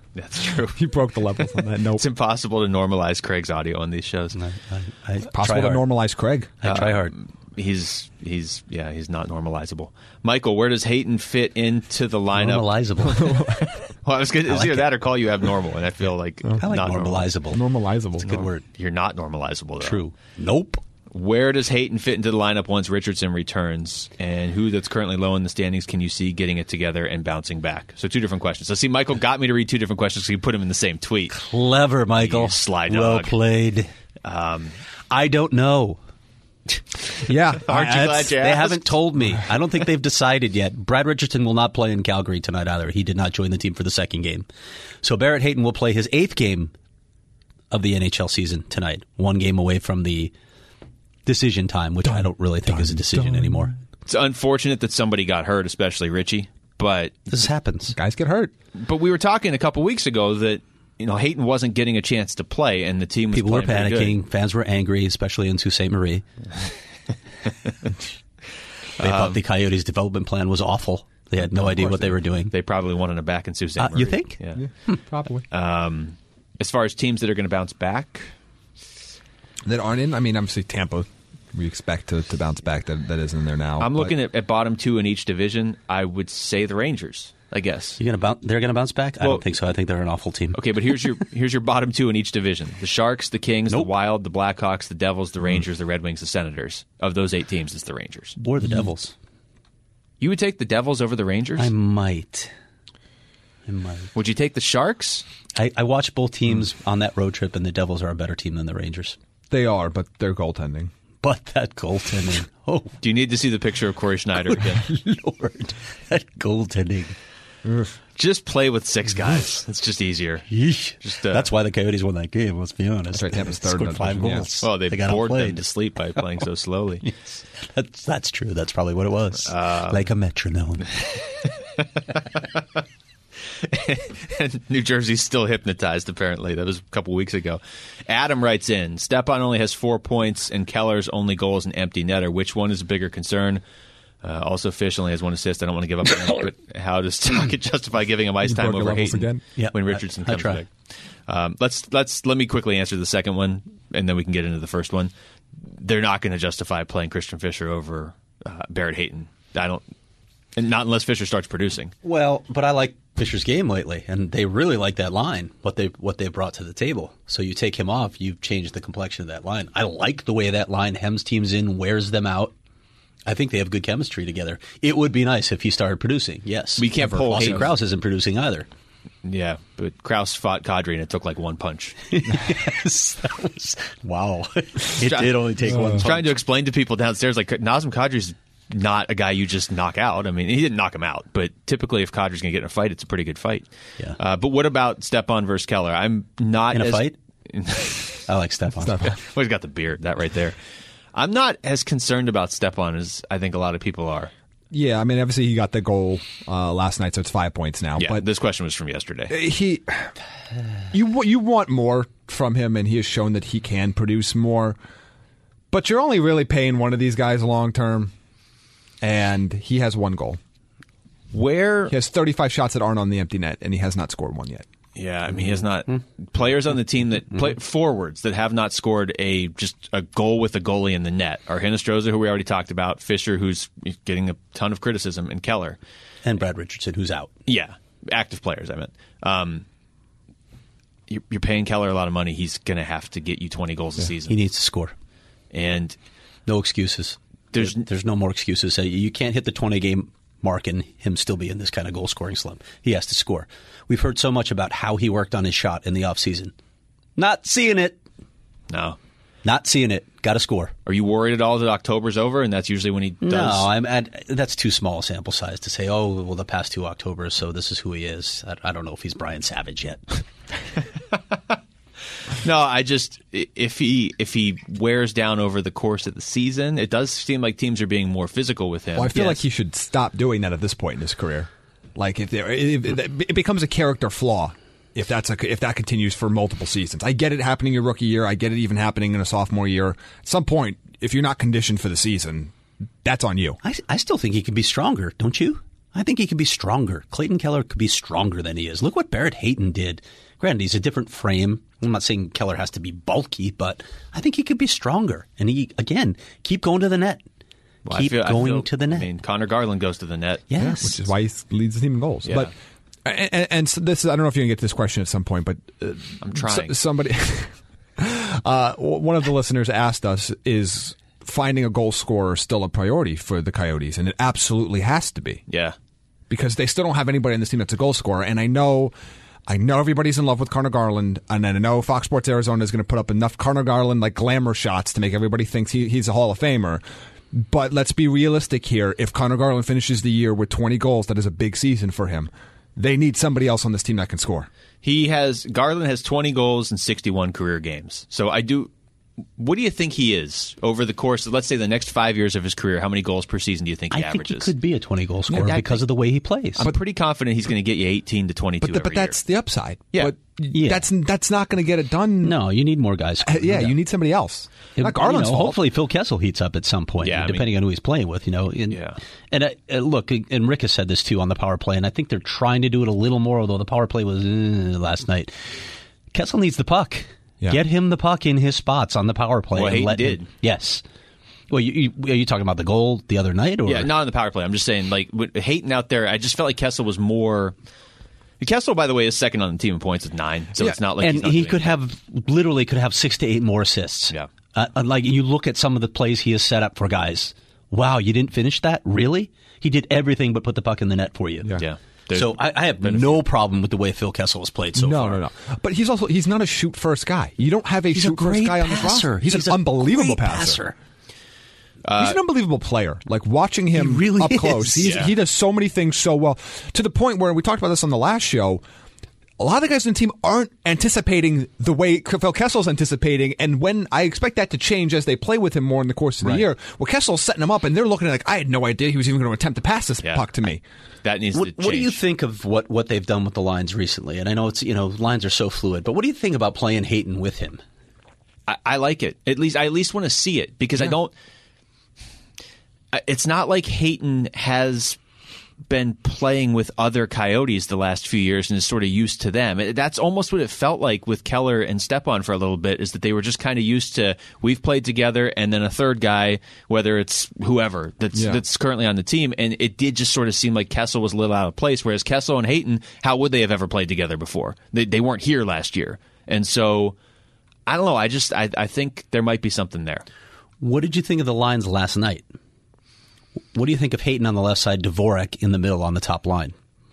That's true. You broke the levels on that. Nope. It's impossible to normalize Craig's audio on these shows. I, I, I Possible to hard. normalize Craig. I try hard. He's he's yeah he's not normalizable. Michael, where does Hayton fit into the lineup? Normalizable. Well, I was going to like either it. that or call you abnormal, and I feel like I like not normal. normalizable. Normalizable. It's a good word. You're not normalizable, though. True. Nope. Where does Hayton fit into the lineup once Richardson returns? And who that's currently low in the standings can you see getting it together and bouncing back? So two different questions. So see, Michael got me to read two different questions so you put them in the same tweet. Clever, Michael. You sly Well dog. played. Um, I don't know. Yeah. Aren't you That's- glad you They asked? haven't told me. I don't think they've decided yet. Brad Richardson will not play in Calgary tonight either. He did not join the team for the second game. So Barrett Hayton will play his eighth game of the N H L season tonight. One game away from the decision time, which I don't really think is a decision anymore. It's unfortunate that somebody got hurt, especially Richie. But This happens. Guys get hurt. but we were talking a couple weeks ago that you know Hayton wasn't getting a chance to play, and the team was People were playing pretty good. panicking. Fans were angry, especially in Sault Ste. Marie. They thought the Coyotes' development plan was awful. They had no idea what they were doing. They probably wanted him back in Sault Ste. Uh, Marie. you think? Yeah. Yeah, probably. Um, as far as teams that are going to bounce back, that aren't in. I mean, obviously Tampa. We expect to, to bounce back. That that isn't there now. I'm but- looking at, at bottom two in each division. I would say the Rangers. I guess. You gonna bounce, they're going to bounce back? I Well- don't think so. I think they're an awful team. Okay, but here's your here's your bottom two in each division: the Sharks, the Kings, Nope. the Wild, the Blackhawks, the Devils, the Rangers, the Red Wings, the Senators. Of those eight teams, it's the Rangers. Or the Devils. You would take the Devils over the Rangers? I might. I might. Would you take the Sharks? I, I watched both teams on that road trip, and the Devils are a better team than the Rangers. They are, but they're goaltending. But that goaltending. Oh, Do you need to see the picture of Corey Schneider again? Lord. That goaltending. Just play with six guys. It's just easier. Yeesh. Just, uh, That's why the Coyotes won that game, let's be honest. That's right, Tampa's third in Scored that five division, yeah. goals. Well, they, got bored them outplayed. to sleep by playing so slowly. That's, that's true. That's probably what it was. Uh, like a metronome. And New Jersey's still hypnotized, apparently. That was a couple weeks ago. Adam writes in, Stepan only has four points, and Keller's only goal is an empty netter. Which one is a bigger concern? Uh, also, Fish only has one assist. I don't want to give up on him, but how does Talkett justify giving him ice You time broke your over levels Hayton again? Yeah, when I- Richardson I comes try. back? Um, let's let's let me quickly answer the second one, and then we can get into the first one. They're not going to justify playing Christian Fischer over uh, Barrett Hayton. I don't, and not unless Fischer starts producing. Well, but I like Fisher's game lately, and they really like that line, what they what they brought to the table. So you take him off, you've changed the complexion of that line. I like the way that line hems teams in, wears them out. I think they have good chemistry together. It would be nice if he started producing, yes. We can't Ever. pull Austin Hayden. Krause isn't producing either. Yeah, but Krause fought Kadri, and it took like one punch. Yes, that was, wow. It did only take one I was punch. trying to explain to people downstairs, like, Nazem Kadri's not a guy you just knock out. I mean, he didn't knock him out, but typically if Kadri's going to get in a fight, it's a pretty good fight. Yeah. Uh, but what about Stepan versus Keller? I'm not In a as, fight? I like Stepan. Well, he's got the beard, that right there. I'm not as concerned about Stepan as I think a lot of people are. Yeah, I mean, obviously he got the goal uh, last night, so it's five points now. Yeah, But this question was from yesterday. he, you wa- you want more from him, and he has shown that he can produce more. But you're only really paying one of these guys long term, and he has one goal. Where He has thirty-five shots that aren't on the empty net, and he has not scored one yet. Yeah, I mean, he has not players on the team that play forwards that have not scored a just a goal with a goalie in the net are Hinostroza, who we already talked about, Fisher, who's getting a ton of criticism, and Keller. And Brad Richardson, who's out. Yeah, active players. I meant. Um, you're, you're paying Keller a lot of money. He's going to have to get you twenty goals a season, He needs to score. and No excuses. There's- There's there's no more excuses. Uh, You can't hit the twenty game mark and him still be in this kind of goal scoring slump. He has to score. We've heard so much about how he worked on his shot in the offseason. Not seeing it. no. Not seeing it. Got to score. Are you worried at all that October's over, and that's usually when he does? No, I'm at, that's too small a sample size to say, oh, well, the past two Octobers, so this is who he is. I, I don't know if he's Brian Savage yet. No, I just if he if he wears down over the course of the season, it does seem like teams are being more physical with him. Well, I feel Yes. like he should stop doing that at this point in his career. Like if, there, if it becomes a character flaw if that's a, if that continues for multiple seasons. I get it happening your rookie year. I get it even happening in a sophomore year. At some point, if you're not conditioned for the season, that's on you. I, I still think he can be stronger, don't you? I think he could be stronger. Clayton Keller could be stronger than he is. Look what Barrett Hayton did. Granted, he's a different frame. I'm not saying Keller has to be bulky, but I think he could be stronger. And he, again, keep going to the net. Well, keep I feel, going I feel, to the net. I mean, Connor Garland goes to the net. Yes. Yeah, which is why he leads the team in goals. Yeah. But and, and so this is, I don't know if you can get to this question at some point, but uh, I'm trying. So, somebody, uh, one of the listeners asked us, is finding a goal scorer still a priority for the Coyotes? And it absolutely has to be. Yeah. Because they still don't have anybody in this team that's a goal scorer. And I know I know everybody's in love with Connor Garland, and I know Fox Sports Arizona is going to put up enough Connor Garland like glamour shots to make everybody think he, he's a Hall of Famer. But let's be realistic here. If Connor Garland finishes the year with twenty goals, that is a big season for him. They need somebody else on this team that can score. He has Garland has twenty goals in sixty-one career games. So I do. What do you think he is over the course of, let's say, the next five years of his career? How many goals per season do you think he I averages? think he could be a twenty-goal scorer Yeah, because think, of the way he plays. I'm pretty confident he's going to get you eighteen to twenty-two But, the, every but that's year. the upside. Yeah. But Yeah. that's that's not going to get it done. No, you need more guys. Uh, yeah, you need somebody else. It- Not Garland's you know, fault. hopefully Phil Kessel heats up at some point, Yeah, I depending on who he's playing with. You know, and, Yeah. and uh, uh, look, and Rick has said this too on the power play, and I think they're trying to do it a little more. Although the power play was uh, last night, Kessel needs the puck. Yeah. Get him the puck in his spots on the power play. Well, and Hayden let did. Him, yes. Well, you, you, are you talking about the goal the other night? Or? Yeah, not on the power play. I'm just saying, like, with Hayton out there, I just felt like Kessel was more. Kessel, by the way, is second on the team in points with nine, so Yeah. it's not like and he's not he doing could it. have literally could have six to eight more assists. Yeah. Uh, like you look at some of the plays he has set up for guys. Wow, you didn't finish that? Really? He did everything but put the puck in the net for you. Yeah. Yeah. There's So I, I have no problem with the way Phil Kessel has played so no, far. no, no. But he's also he's not a shoot first guy. You don't have a He's a shoot first great guy on this passer. roster. He's, He's an a unbelievable great passer. Uh, he's an unbelievable player. Like watching him He really up close, is. he's, Yeah. he does so many things so well. To the point where we talked about this on the last show. A lot of the guys in the team aren't anticipating the way Phil Kessel's anticipating, and when I expect that to change as they play with him more in the course of the Right. year, well, Kessel's setting him up, and they're looking at it like, I had no idea he was even going to attempt to pass this Yeah. puck to me. That needs What, to change. what do you think of what, what they've done with the lines recently? And I know it's you know lines are so fluid, but what do you think about playing Hayton with him? I, I like it. At least I at least want to see it because I don't. I- It's not like Hayton has been playing with other Coyotes the last few years and is sort of used to them. It- That's almost what it felt like with Keller and Stepan for a little bit, is that they were just kind of used to, we've played together, and then a third guy, whether it's whoever that's Yeah. that's currently on the team, and it did just sort of seem like Kessel was a little out of place, whereas Kessel and Hayton, how would they have ever played together before? They, they weren't here last year. And so, I don't know, I just, I, I think there might be something there. What did you think of the lines last night? What do you think of Hayton on the left side, Dvorak in the middle on the top line?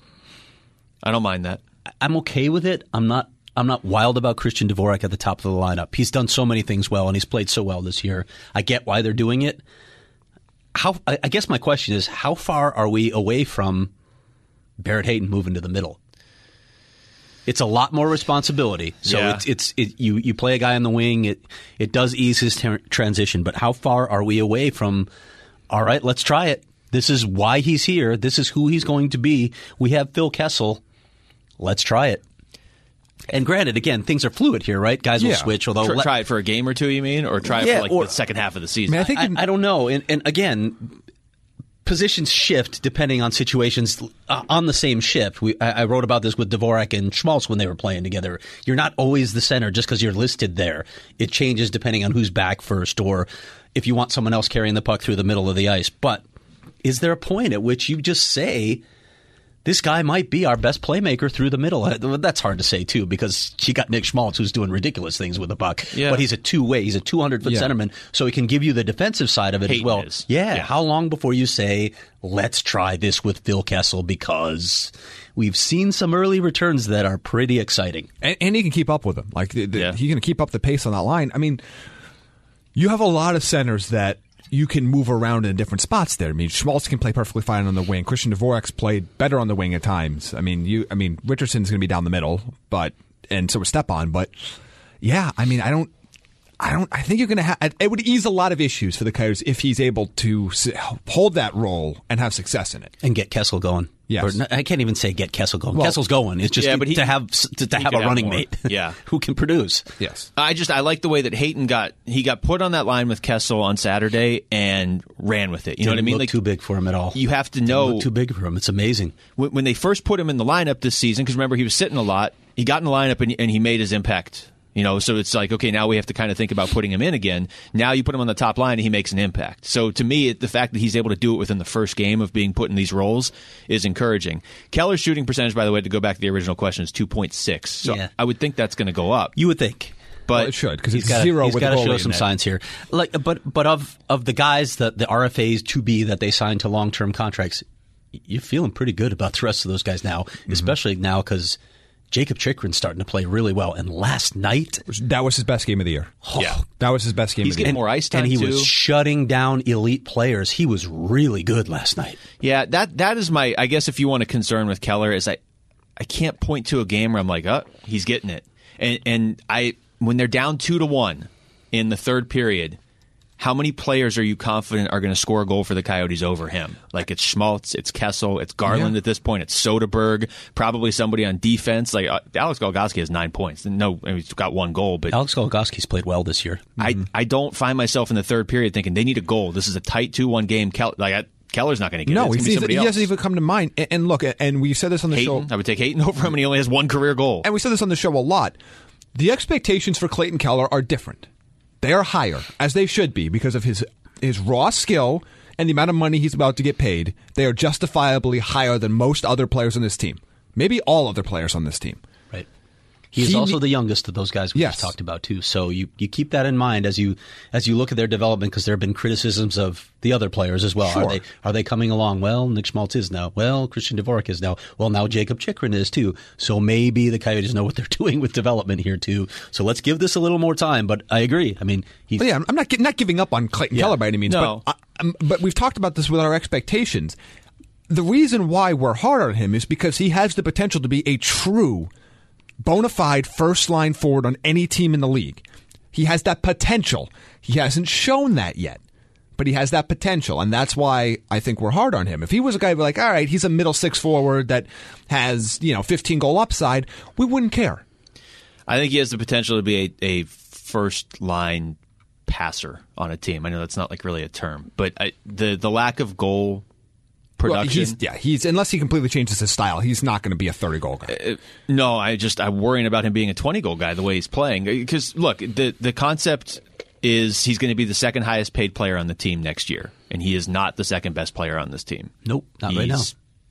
I don't mind that. I'm okay with it. I'm not. I'm not wild about Christian Dvorak at the top of the lineup. He's done so many things well, and he's played so well this year. I get why they're doing it. How? I I guess my question is, how far are we away from Barrett Hayton moving to the middle? It's a lot more responsibility. So Yeah. it's it's it, you you play a guy on the wing. It it does ease his ter- transition, but how far are we away from? All right, let's try it. This is why he's here. This is who he's going to be. We have Phil Kessel. Let's try it. And granted, again, things are fluid here, right? Guys will Yeah. switch. Although Try, let- try it for a game or two, you mean? Or try it Yeah, for like or- the second half of the season? I mean, I think I, in- I don't know. And, and again, positions shift depending on situations uh, on the same shift. We, I, I wrote about this with Dvorak and Schmaltz when they were playing together. You're not always the center just because you're listed there. It changes depending on who's back first or if you want someone else carrying the puck through the middle of the ice. But is there a point at which you just say, this guy might be our best playmaker through the middle? That's hard to say, too, because you got Nick Schmaltz, who's doing ridiculous things with the puck. Yeah. But he's a two-way. He's a two hundred foot Yeah. centerman, so he can give you the defensive side of it Hayton as well. is. Yeah. Yeah. How long before you say, let's try this with Phil Kessel? Because we've seen some early returns that are pretty exciting. And, and he can keep up with them. Like the, the, Yeah. he can keep up the pace on that line. I mean, you have a lot of centers that you can move around in different spots there. I mean, Schmaltz can play perfectly fine on the wing. Christian Dvorak's played better on the wing at times. I mean, you. I mean, Richardson's going to be down the middle, but and so is Stepan. But yeah, I mean, I don't. I don't. I think you're going to have. It would ease a lot of issues for the Coyotes if he's able to hold that role and have success in it and get Kessel going. Yes, or, I can't even say get Kessel going. Well, Kessel's going. It's just yeah, but he, to have to, to have a running have mate. Yeah, who can produce. Yes, I just I like the way that Hayton got he got put on that line with Kessel on Saturday and ran with it. You Didn't know what I mean? Look like too big for him at all. You have to Didn't know look too big for him. It's amazing. When, when they first put him in the lineup this season, because remember he was sitting a lot. He got in the lineup and, and he made his impact. You know, so it's like, okay, now we have to kind of think about putting him in again. Now you put him on the top line and he makes an impact. So to me, it, the fact that he's able to do it within the first game of being put in these roles is encouraging. Keller's shooting percentage, by the way, to go back to the original question, is two point six. So yeah. I would think that's going to go up. You would think. But well, it should, because it's gotta, zero he's with got to goal show some net. signs here. Like, but but of of the guys that the R F As to be that they signed to long term contracts, you're feeling pretty good about the rest of those guys now, mm-hmm. especially now because Jacob Chychrun's starting to play really well. And last night, that was his best game of the year. Oh, yeah, that was his best game. He's of the getting year. more ice time, and he too. was shutting down elite players. He was really good last night. Yeah, that that is my. I guess if you want a concern with Keller, is I I can't point to a game where I'm like, oh, he's getting it. And and I when they're down two to one in the third period, how many players are you confident are going to score a goal for the Coyotes over him? Like it's Schmaltz, it's Kessel, it's Garland yeah. at this point, it's Soderberg, probably somebody on defense. Like uh, Alex Golgoski has nine points. No, I mean, he's got one goal, but Alex Golgoski's played well this year. I Mm-hmm. I don't find myself in the third period thinking they need a goal. This is a tight two one game. Kel- like I, Keller's not going to get no, it. It's he's, gonna be he somebody doesn't else. even come to mind. And, and look, and we said this on the Hayton, show. I would take Hayton over him, and he only has one career goal. And we said this on the show a lot. The expectations for Clayton Keller are different. They are higher, as they should be, because of his his raw skill and the amount of money he's about to get paid. They are justifiably higher than most other players on this team. Maybe all other players on this team. Right. He is He also ne- the youngest of those guys we Yes. just talked about too. So you, you keep that in mind as you as you look at their development, because there have been criticisms of the other players as well. Sure. Are they are they coming along? Well, Nick Schmaltz is now. Well, Christian Dvorak is now. Well, now Jacob Chychrun is too. So maybe the Coyotes know what they're doing with development here too. So let's give this a little more time. But I agree. I mean, he's But yeah, I'm not gi- not giving up on Clayton Yeah. Keller by any means. No. But, I, um, but we've talked about this with our expectations. The reason why we're hard on him is because he has the potential to be a true bona fide first line forward on any team in the league. He has that potential. He hasn't shown that yet, but he has that potential, and that's why I think we're hard on him. If he was a guy who like, all right, he's a middle six forward that has, you know, fifteen goal upside, we wouldn't care. I think he has the potential to be a, a first line passer on a team. I know that's not like really a term, but I, the the lack of goal production. Well, he's, yeah, he's unless he completely changes his style, he's not going to be a thirty goal guy. Uh, no, I just I'm worrying about him being a twenty goal guy the way he's playing. Because look, the the concept is he's going to be the second highest paid player on the team next year, and he is not the second best player on this team. Nope, not he's, right now.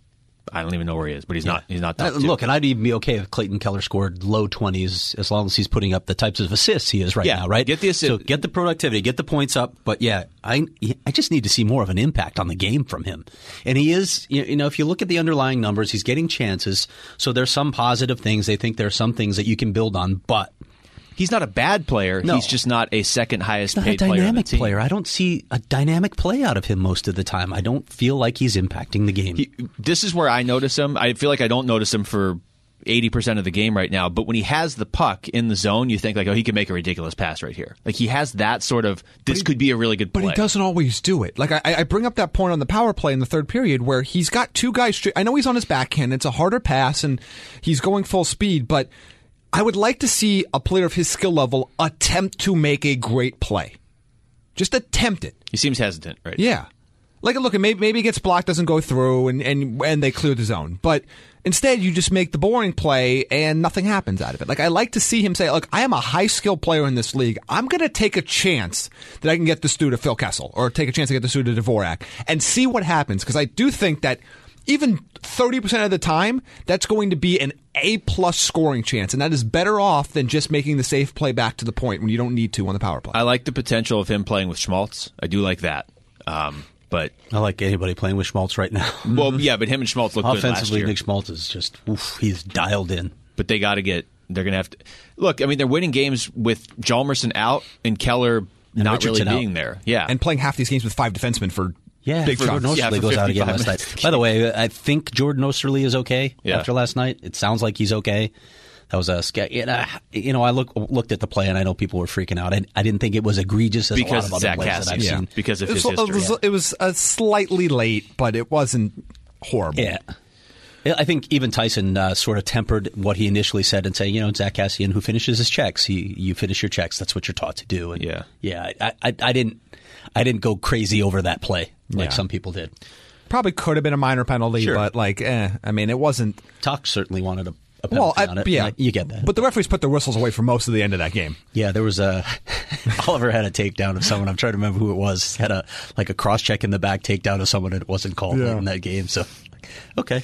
I don't even know where he is, but he's Yeah. not. He's not. Uh, Top two. look, and I'd even be okay if Clayton Keller scored low twenties as long as he's putting up the types of assists he is right Yeah, now, right? get the assist- So get the productivity, get the points up. But yeah, I I just need to see more of an impact on the game from him. And he is, you know, if you look at the underlying numbers, he's getting chances. So there's some positive things. They think there are some things that you can build on, but he's not a bad player. No. He's just not a second highest not a paid player on the dynamic team. player. I don't see a dynamic play out of him most of the time. I don't feel like he's impacting the game. He, this is where I notice him. I feel like I don't notice him for eighty percent of the game right now, but when he has the puck in the zone, you think like, oh, he can make a ridiculous pass right here. Like he has that sort of, this he- could be a really good play. But he doesn't always do it. Like I, I bring up that point on the power play in the third period where he's got two guys straight. I know he's on his backhand. It's a harder pass and he's going full speed, but I would like to see a player of his skill level attempt to make a great play. Just attempt it. He seems hesitant, right? Yeah. Like, look, maybe, maybe it gets blocked, doesn't go through, and, and, and they clear the zone. But instead, you just make the boring play, and nothing happens out of it. Like, I like to see him say, look, I am a high-skilled player in this league. I'm going to take a chance that I can get this dude to Phil Kessel, or take a chance to get this dude to Dvorak, and see what happens. Because I do think that even thirty percent of the time, that's going to be an A-plus scoring chance, and that is better off than just making the safe play back to the point when you don't need to on the power play. I like the potential of him playing with Schmaltz. I do like that. Um, but I like anybody playing with Schmaltz right now. well, yeah, but him and Schmaltz look good last Offensively, year. Nick Schmaltz is just, oof, he's dialed in. But they got to get. They're going to have to look. I mean, they're winning games with Hjalmarsson out and Keller And not Richardson really out. being there. Yeah, And playing half these games with five defensemen for Yeah, big Jordan chunks. Yeah, Osterley for goes out again fifty-five last minutes. night. By the way, I think Jordan Osterley is okay Yeah. after last night. It sounds like he's okay. That was a sca- you know, you know I look, looked at the play and I know people were freaking out. I, I didn't think it was egregious as because a lot of other Zach plays Cassian, that I've yeah. seen. Because of It his was, history. it was, it was uh, slightly late, but it wasn't horrible. Yeah. I think even Tyson uh, sort of tempered what he initially said and saying, you know, Zach Cassian, who finishes his checks, he, you finish your checks. That's what you're taught to do. And yeah, yeah. I, I, I didn't, I didn't go crazy over that play like Yeah. some people did. Probably could have been a minor penalty, Sure. but like, eh. I mean, it wasn't. Tuck certainly wanted a, a Well, penalty I, on it. yeah, Like, you get that. But the referees put their whistles away for most of the end of that game. Yeah, there was a Oliver had a takedown of someone. I'm trying to remember who it was. Had a like a cross check in the back takedown of someone that wasn't called Yeah. in that game. So, okay.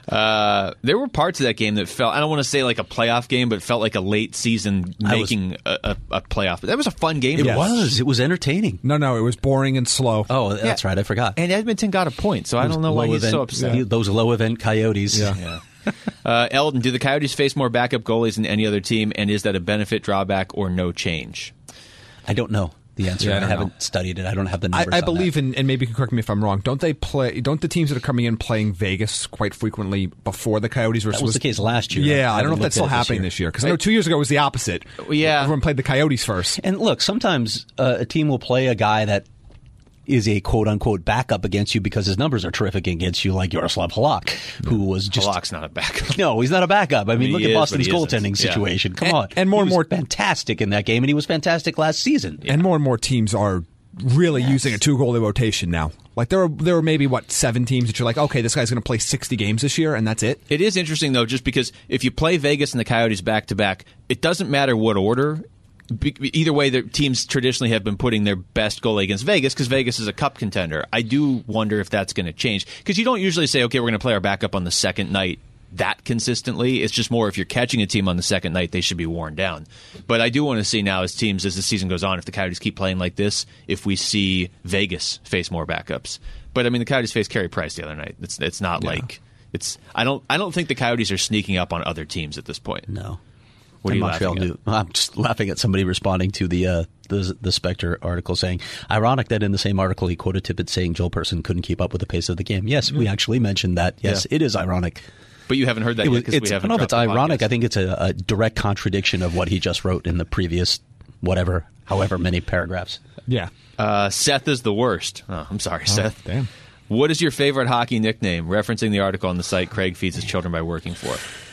Uh, there were parts of that game that felt, I don't want to say like a playoff game, but it felt like a late season I was- making a, a, a playoff. That was a fun game. It to watch. was. It was entertaining. No, no, it was boring and slow. Oh, that's Yeah. right. I forgot. And Edmonton got a point, so I don't know why Low he's event, so upset. yeah. Those low event Coyotes. Yeah. Yeah. Uh, Eldon, do the Coyotes face more backup goalies than any other team, and is that a benefit, drawback, or no change? I don't know the answer. Yeah, I I, don't haven't know. studied it. I don't have the I, numbers. I on believe that. in, and maybe you can correct me if I'm wrong. Don't they play? Don't the teams that are coming in playing Vegas quite frequently before the Coyotes were? That was the case last year. Yeah, I I don't know haven't if that's looked still at it this happening year. this year because I know two years ago it was the opposite. Yeah. Everyone played the Coyotes first. And look, sometimes uh, a team will play a guy that is a quote-unquote backup against you because his numbers are terrific against you, like Yaroslav Halak, who was just... Halak's not a backup. No, he's not a backup. I mean, He look is, at but Boston's he isn't. goaltending Yeah. situation. Come And- on. and more He and was more- fantastic in that game, and he was fantastic last season. And more and more teams are really using a two goalie rotation now. Like there are there are maybe what seven teams that you're like, okay, this guy's going to play sixty games this year, and that's it. It is interesting, though, just because if you play Vegas and the Coyotes back-to-back, it doesn't matter what order. Be- Either way, the teams traditionally have been putting their best goalie against Vegas because Vegas is a cup contender. I do wonder if that's going to change because you don't usually say, okay, we're going to play our backup on the second night that consistently. It's just more if you're catching a team on the second night, they should be worn down. But I do want to see now as teams, as the season goes on, if the Coyotes keep playing like this, if we see Vegas face more backups. But I mean, the Coyotes faced Carey Price the other night. It's it's not Yeah. like it's. I don't. I don't think the Coyotes are sneaking up on other teams at this point. No. What are And you Montreal laughing at? knew- I'm just laughing at somebody responding to the uh, the the Spectre article saying, ironic that in the same article he quoted Tippett saying Joel Person couldn't keep up with the pace of the game. Yes, we actually mentioned that. Yes, Yeah. it is ironic. But you haven't heard that It was, yet because we it's, I haven't. don't know if dropped it's the ironic. podcast. I think it's a, a direct contradiction of what he just wrote in the previous whatever, however many paragraphs. Yeah. Uh, Seth is the worst. Oh, I'm sorry, Seth. Damn. What is your favorite hockey nickname? Referencing the article on the site Craig feeds his children by working for.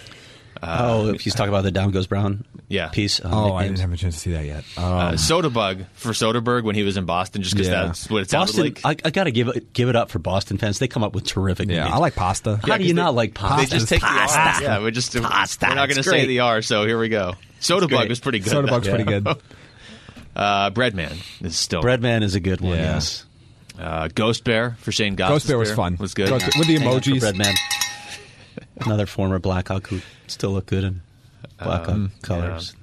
oh, if he's talking about the Down Goes Brown Yeah. piece. on Oh, I nicknames. didn't have a chance to see that yet. Uh, Soderberg for Soderberg when he was in Boston, just because Yeah. that's what it sounded Boston, like. I, I got to give it give it up for Boston fans. They come up with terrific. yeah, names. I like pasta. How do you not like They pasta? just take pasta. the R. Yeah, we're just Pasta. we're not going to It's say great. the R. So here we go. Soderberg great. was pretty good. Soderberg's though. pretty good. Uh, Breadman is still Breadman is a good one. Yeah. Yes. Uh, Ghost Bear for Shane Goss. Ghost Bear was fun. Was good. Ghost- with the Hang on for emojis. Breadman. Another former Blackhawk who still look good in Blackhawk Um, colors.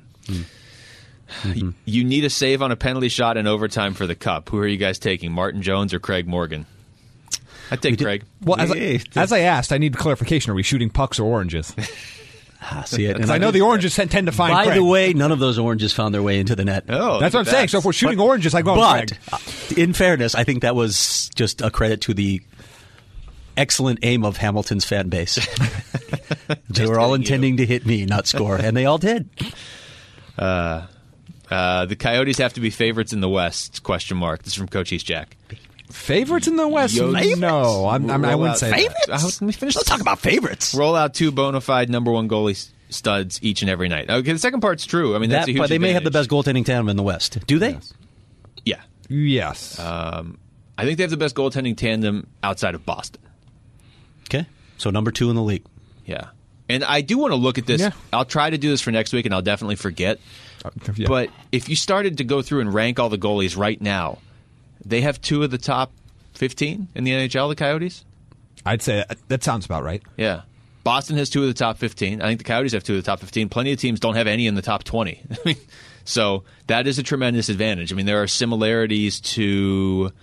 You need a save on a penalty shot in overtime for the Cup. Who are you guys taking, Martin Jones or Craig Morgan? I'd take did- Craig. Well, as Yeah. I, as I asked, I need clarification. Are we shooting pucks or oranges? Ah, see it. Because And I know just- the oranges tend to find By Craig. the way, none of those oranges found their way into the net. Oh, That's what I'm saying. So if we're shooting oranges, I go on But Craig. uh, in fairness, I think that was just a credit to the excellent aim of Hamilton's fan base. They were all hitting you. intending to hit me, not score, and they all did. Uh, the Coyotes have to be favorites in the West? Question mark. This is from Coach East Jack. Favorites in the West? Yo- No, I'm, I'm, I Roll wouldn't out say favorites? that. Uh, let me finish Let's this. talk about favorites. Roll out two bona fide number one goalie s- studs each and every night. Okay, the second part's true. I mean, that's That, a huge but they may have the advantage. best goaltending tandem in the West. Do they? Yeah. Yes. Um, I think they have the best goaltending tandem outside of Boston. Okay. So number two in the league. Yeah. And I do want to look at this. Yeah. I'll try to do this for next week, and I'll definitely forget. Uh, yeah. But if you started to go through and rank all the goalies right now, they have two of the top fifteen in the N H L, the Coyotes? I'd say that, that sounds about right. Yeah. Boston has two of the top fifteen. I think the Coyotes have two of the top fifteen. Plenty of teams don't have any in the top twenty. So that is a tremendous advantage. I mean, there are similarities to...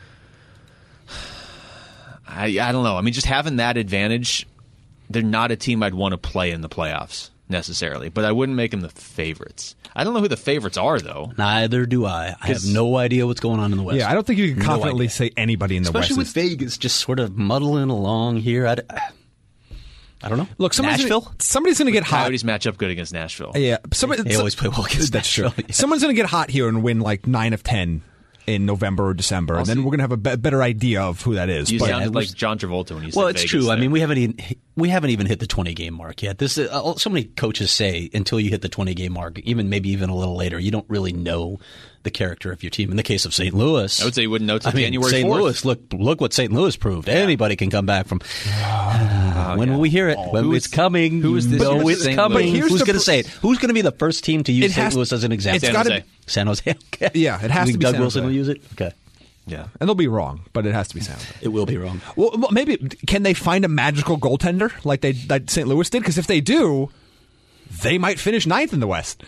I, I don't know. I mean, just having that advantage, they're not a team I'd want to play in the playoffs necessarily, but I wouldn't make them the favorites. I don't know who the favorites are, though. Neither do I. I have 'Cause- no idea what's going on in the West. Yeah, I don't think you can No confidently idea. say anybody in the Especially with West. is- Vegas just sort of muddling along here. I, I don't know. Look, somebody's Nashville? Gonna, somebody's going to get hot. Coyotes match up good against Nashville. Yeah, somebody, They so- always play well against That's true. Nashville. Yeah. Someone's going to get hot here and win like nine of ten in November or December, and then see. we're going to have a be- better idea of who that is. You But- sounded like John Travolta when you said Well, it's Vegas true. I there. mean, we haven't even we haven't even hit the twenty game mark yet. This uh, so many coaches say until you hit the twenty game mark, even maybe even a little later, you don't really know the character of your team. In the case of Saint Louis, I would say you wouldn't know till I mean, January Saint fourth. Louis. Look, look what Saint Louis proved. Anybody can come back from. Uh, when yeah. will we hear it? when Who it's is- coming. who is you this know year's it's Saint coming. Louis? Here's Who's the going to pr- say it? Who's going to be the first team to use It Saint has- Louis as an example? it's San gotta Jose. be- San Jose. Okay. Yeah, it has You to think be Doug San Wilson Jose. will use it. Okay. Yeah. and they'll be wrong, but it has to be San Jose. It will be wrong. Well, well, maybe can they find a magical goaltender like they like Saint Louis did? Because if they do, they might finish ninth in the West.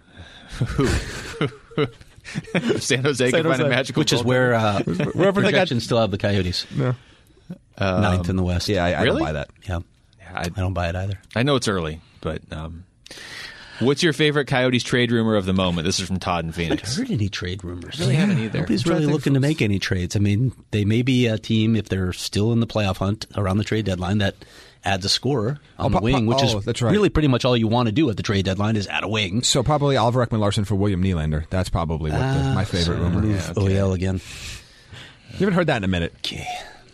San Jose can find Jose. a magical Which is goaltender. where uh, Wherever they got- projections still have the Coyotes. Yeah, Ninth in the West. yeah, I, I don't Really? buy that. Yeah. Yeah, I, I don't buy it either. I know it's early, but um, what's your favorite Coyotes trade rumor of the moment? This is from Todd in I Phoenix. haven't heard any trade rumors. really haven't either. Nobody's I'm trying really to think looking to make any trades. I mean, they may be a team, if they're still in the playoff hunt around the trade deadline, that adds a scorer on Oh, the pa- wing, pa- which oh, is that's right. really pretty much all you want to do at the trade deadline is add a wing. So probably Oliver Ekman-Larsson for William Nylander. That's probably what the, my favorite rumor. Move Yeah. O E L again. You haven't heard that in a minute. Okay.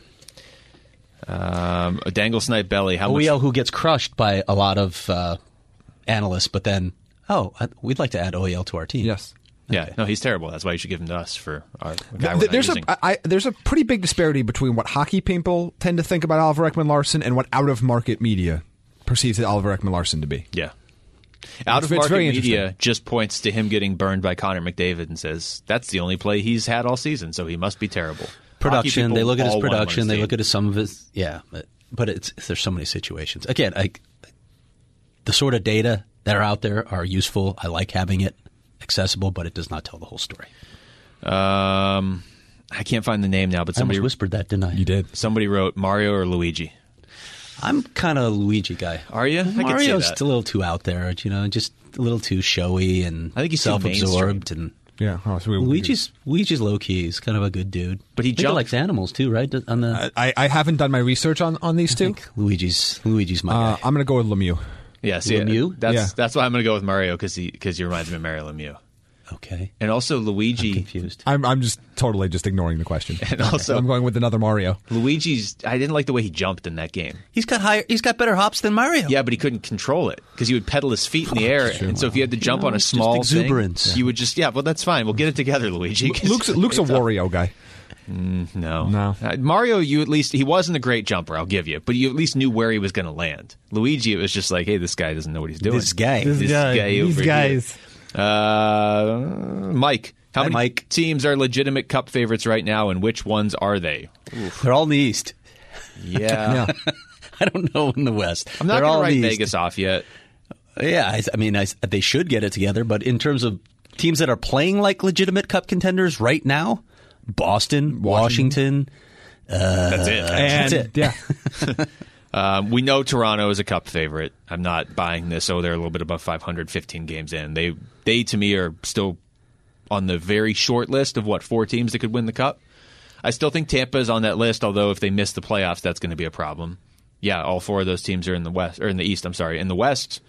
Um, a dangle snipe belly. How O much? E L who gets crushed by a lot of uh, analysts, but then, oh, I- we'd like to add O E L to our team. Yes. Yeah, no, he's terrible. That's why you should give him to us for our guy Th- we're not there's a using. I, I- there's a pretty big disparity between what hockey people tend to think about Oliver Ekman-Larsson and what out of market media perceives Oliver Ekman-Larsson to be. Yeah. Out of it's market very media interesting. just points to him getting burned by Connor McDavid and says that's the only play he's had all season, so he must be terrible. Production. Hockey They people look at his all wanna win production. They team. look at his, some of his. Yeah, but, but it's there's so many situations. Again, I, the sort of data that are out there are useful. I like having it accessible, but it does not tell the whole story. Um, I can't find the name now, but I somebody almost whispered that, didn't I? You did. somebody wrote Mario or Luigi. I'm kind of a Luigi guy. Are you? I could see Mario's that. a little too out there, you know, just a little too showy and I think he's too self-absorbed. And Yeah. Oh, so we, Luigi's Luigi's low key. He's kind of a good dude, But he I think jumped. likes animals too, right? On the I, I haven't done my research on, on these I two. think Luigi's Luigi's my Uh, guy. I'm going to go with Lemieux. Yeah, see, Lemieux? that's Yeah. that's why I'm going to go with Mario because he because he reminds me of Mario Lemieux, Okay, and also Luigi. confused. I'm I'm just totally just ignoring the question. And also- I'm going with another Mario. Luigi's. I didn't like the way he jumped in that game. He's got higher. He's got better hops than Mario. Yeah, but he couldn't control it because he would pedal his feet in the air, and so if you had to jump know, on a it's just small exuberance. thing, you would just yeah. Well, that's fine. We'll get it together, Luigi. 'cause Luke's Luke's a it's up. Wario guy. No, No. Uh, Mario, you at least he wasn't a great jumper. I'll give you, but you at least knew where he was going to land. Luigi, it was just like, hey, this guy doesn't know what he's doing. This guy. this guy, over here. Uh, Mike, how Hi, many Mike. teams are legitimate Cup favorites right now, and which ones are they? They're all in the East. Yeah, Yeah. I don't know in the West. I'm not They're going all to in write the East. Vegas off yet. Yeah, I, I mean, I, they should get it together. But in terms of teams that are playing like legitimate Cup contenders right now, Boston, Washington. That's it. And That's it. yeah. Um, we know Toronto is a Cup favorite. I'm not buying this. Oh, they're a little bit above five hundred, fifteen games in. They, they to me, are still on the very short list of what four teams that could win the Cup. I still think Tampa is on that list. Although if they miss the playoffs, that's going to be a problem. Yeah, all four of those teams are in the West or in the East. I'm sorry, in the West.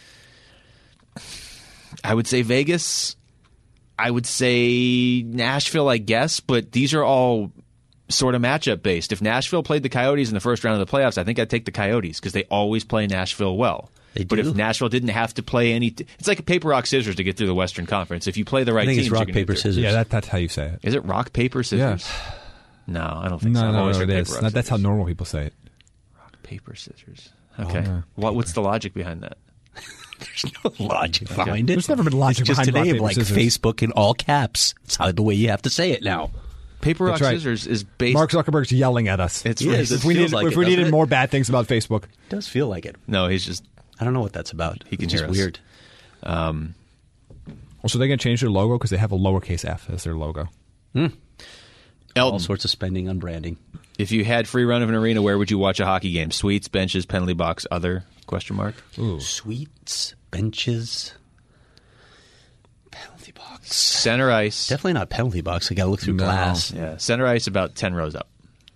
I would say Vegas. I would say Nashville, I guess, but these are all sort of matchup based. If Nashville played the Coyotes in the first round of the playoffs, I think I'd take the Coyotes because they always play Nashville well. They But do. if Nashville didn't have to play any, t- it's like a paper rock scissors to get through the Western Conference. If you play the right I think teams, it's you're rock gonna get paper through. scissors. Yeah, that, that's how you say it. Is it rock paper scissors? No, I don't think No, so. I've no, always no, heard it paper, is. rock, That, that's how scissors. normal people say it. Rock paper scissors. Okay. no. What? What's the logic behind that? There's no logic behind it. There's never been logic it's just behind a rock, name paper, like scissors. Facebook in all caps. It's how the way you have to say it now. Paper rock That's right. scissors is based. Mark Zuckerberg's yelling at us. It's Yes, really- it if we, feels need, like if it, we doesn't needed it? more bad things about Facebook. It does feel like it. no, he's just I don't know what that's about. He can it's hear just us. weird. Also, they're going to change their logo because they have a lowercase f as their logo. All Elton. sorts of spending on branding. If you had free run of an arena, where would you watch a hockey game? Suites, benches, penalty box, other? Question mark. Suites, benches, penalty box. Center ice. Definitely not penalty box. I got to look through No. glass. Yeah, center ice about ten rows up.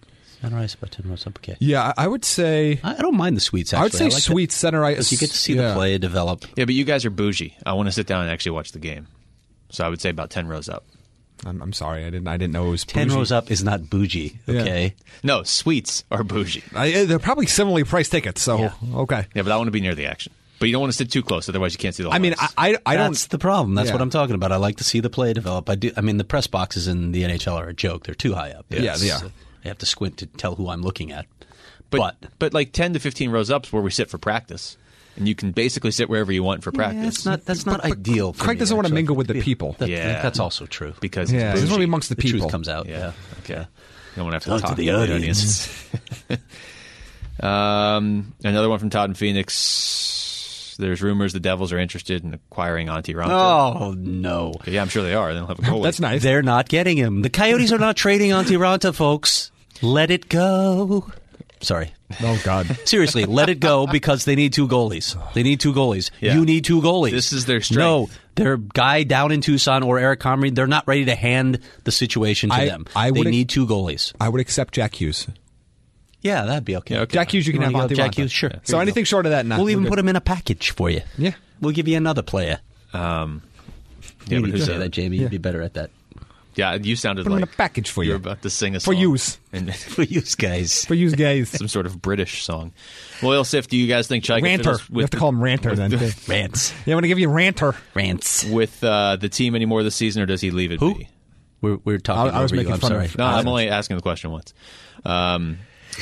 Center ice about ten rows up. Okay. Yeah, I would say. I, I don't mind the sweets. Actually, I would say I like sweet center ice. because you get to see yeah. the play develop. Yeah, but you guys are bougie. I want to sit down and actually watch the game. So I would say about ten rows up. I'm, I'm sorry, I didn't. I didn't know it was Ten bougie. rows up is not bougie. Okay. No, suites are bougie. I, they're probably similarly priced tickets. So Yeah. okay. Yeah, but I want to be near the action. But you don't want to sit too close, otherwise you can't see the whole I mean, ice. I I, I don't. That's the problem. That's Yeah. what I'm talking about. I like to see the play develop. I do. I mean, the press boxes in the N H L are a joke. They're too high up. Yeah, It's- yeah. I have to squint to tell who I'm looking at. but, but but like ten to fifteen rows up is where we sit for practice. And you can basically sit wherever you want for practice. Yeah, that's not that's not ideal. For Craig me, doesn't want to actually. mingle with the people. That- Yeah. that's also true. because Yeah, it's he doesn't want to be bougie. amongst the The people. truth comes out. Yeah. Yeah. Okay. You don't want to Talk have to to talk the to the audience. audience. um, another one from Todd in Phoenix. There's rumors the Devils are interested in acquiring Antti Raanta. Oh no, Yeah, I'm sure they are. They don't have a goalie. That's nice. they're not getting him. The Coyotes are not trading Antti Raanta, folks. Let it go. Sorry. Oh God. Seriously, let it go because they need two goalies. They need two goalies. Yeah. You need two goalies. This is their strength. No, their guy down in Tucson or Eric Comrie, they're not ready to hand the situation to I- them. I they would- need two goalies. I would accept Jack Hughes. Yeah, that'd be okay. Yeah, okay. Jack Hughes, you can You have wanna Antti go Jack Raanta. Hughes? Sure. So anything short of that, nah, We'll even we're put good. him in a package for you. Yeah. We'll give you another player. Um, You yeah, need but to who's say a- that, Jamie. You'd be better at that. Yeah, you sounded Put him like in a package for you you. were about to sing a For song. use. And For you guys. For you guys. some sort of British song. Well, Ilsif, do you guys think Chaika Ranter. fiddles You with have to call him Ranter then. too. Rants. Yeah, I'm going to give you Ranter. Rants. with uh, the team anymore this season, or does he leave it Who? be? We're, we're talking I- I was over you. making I'm fun sorry. of- No, Uh, I'm only asking the question once. Um,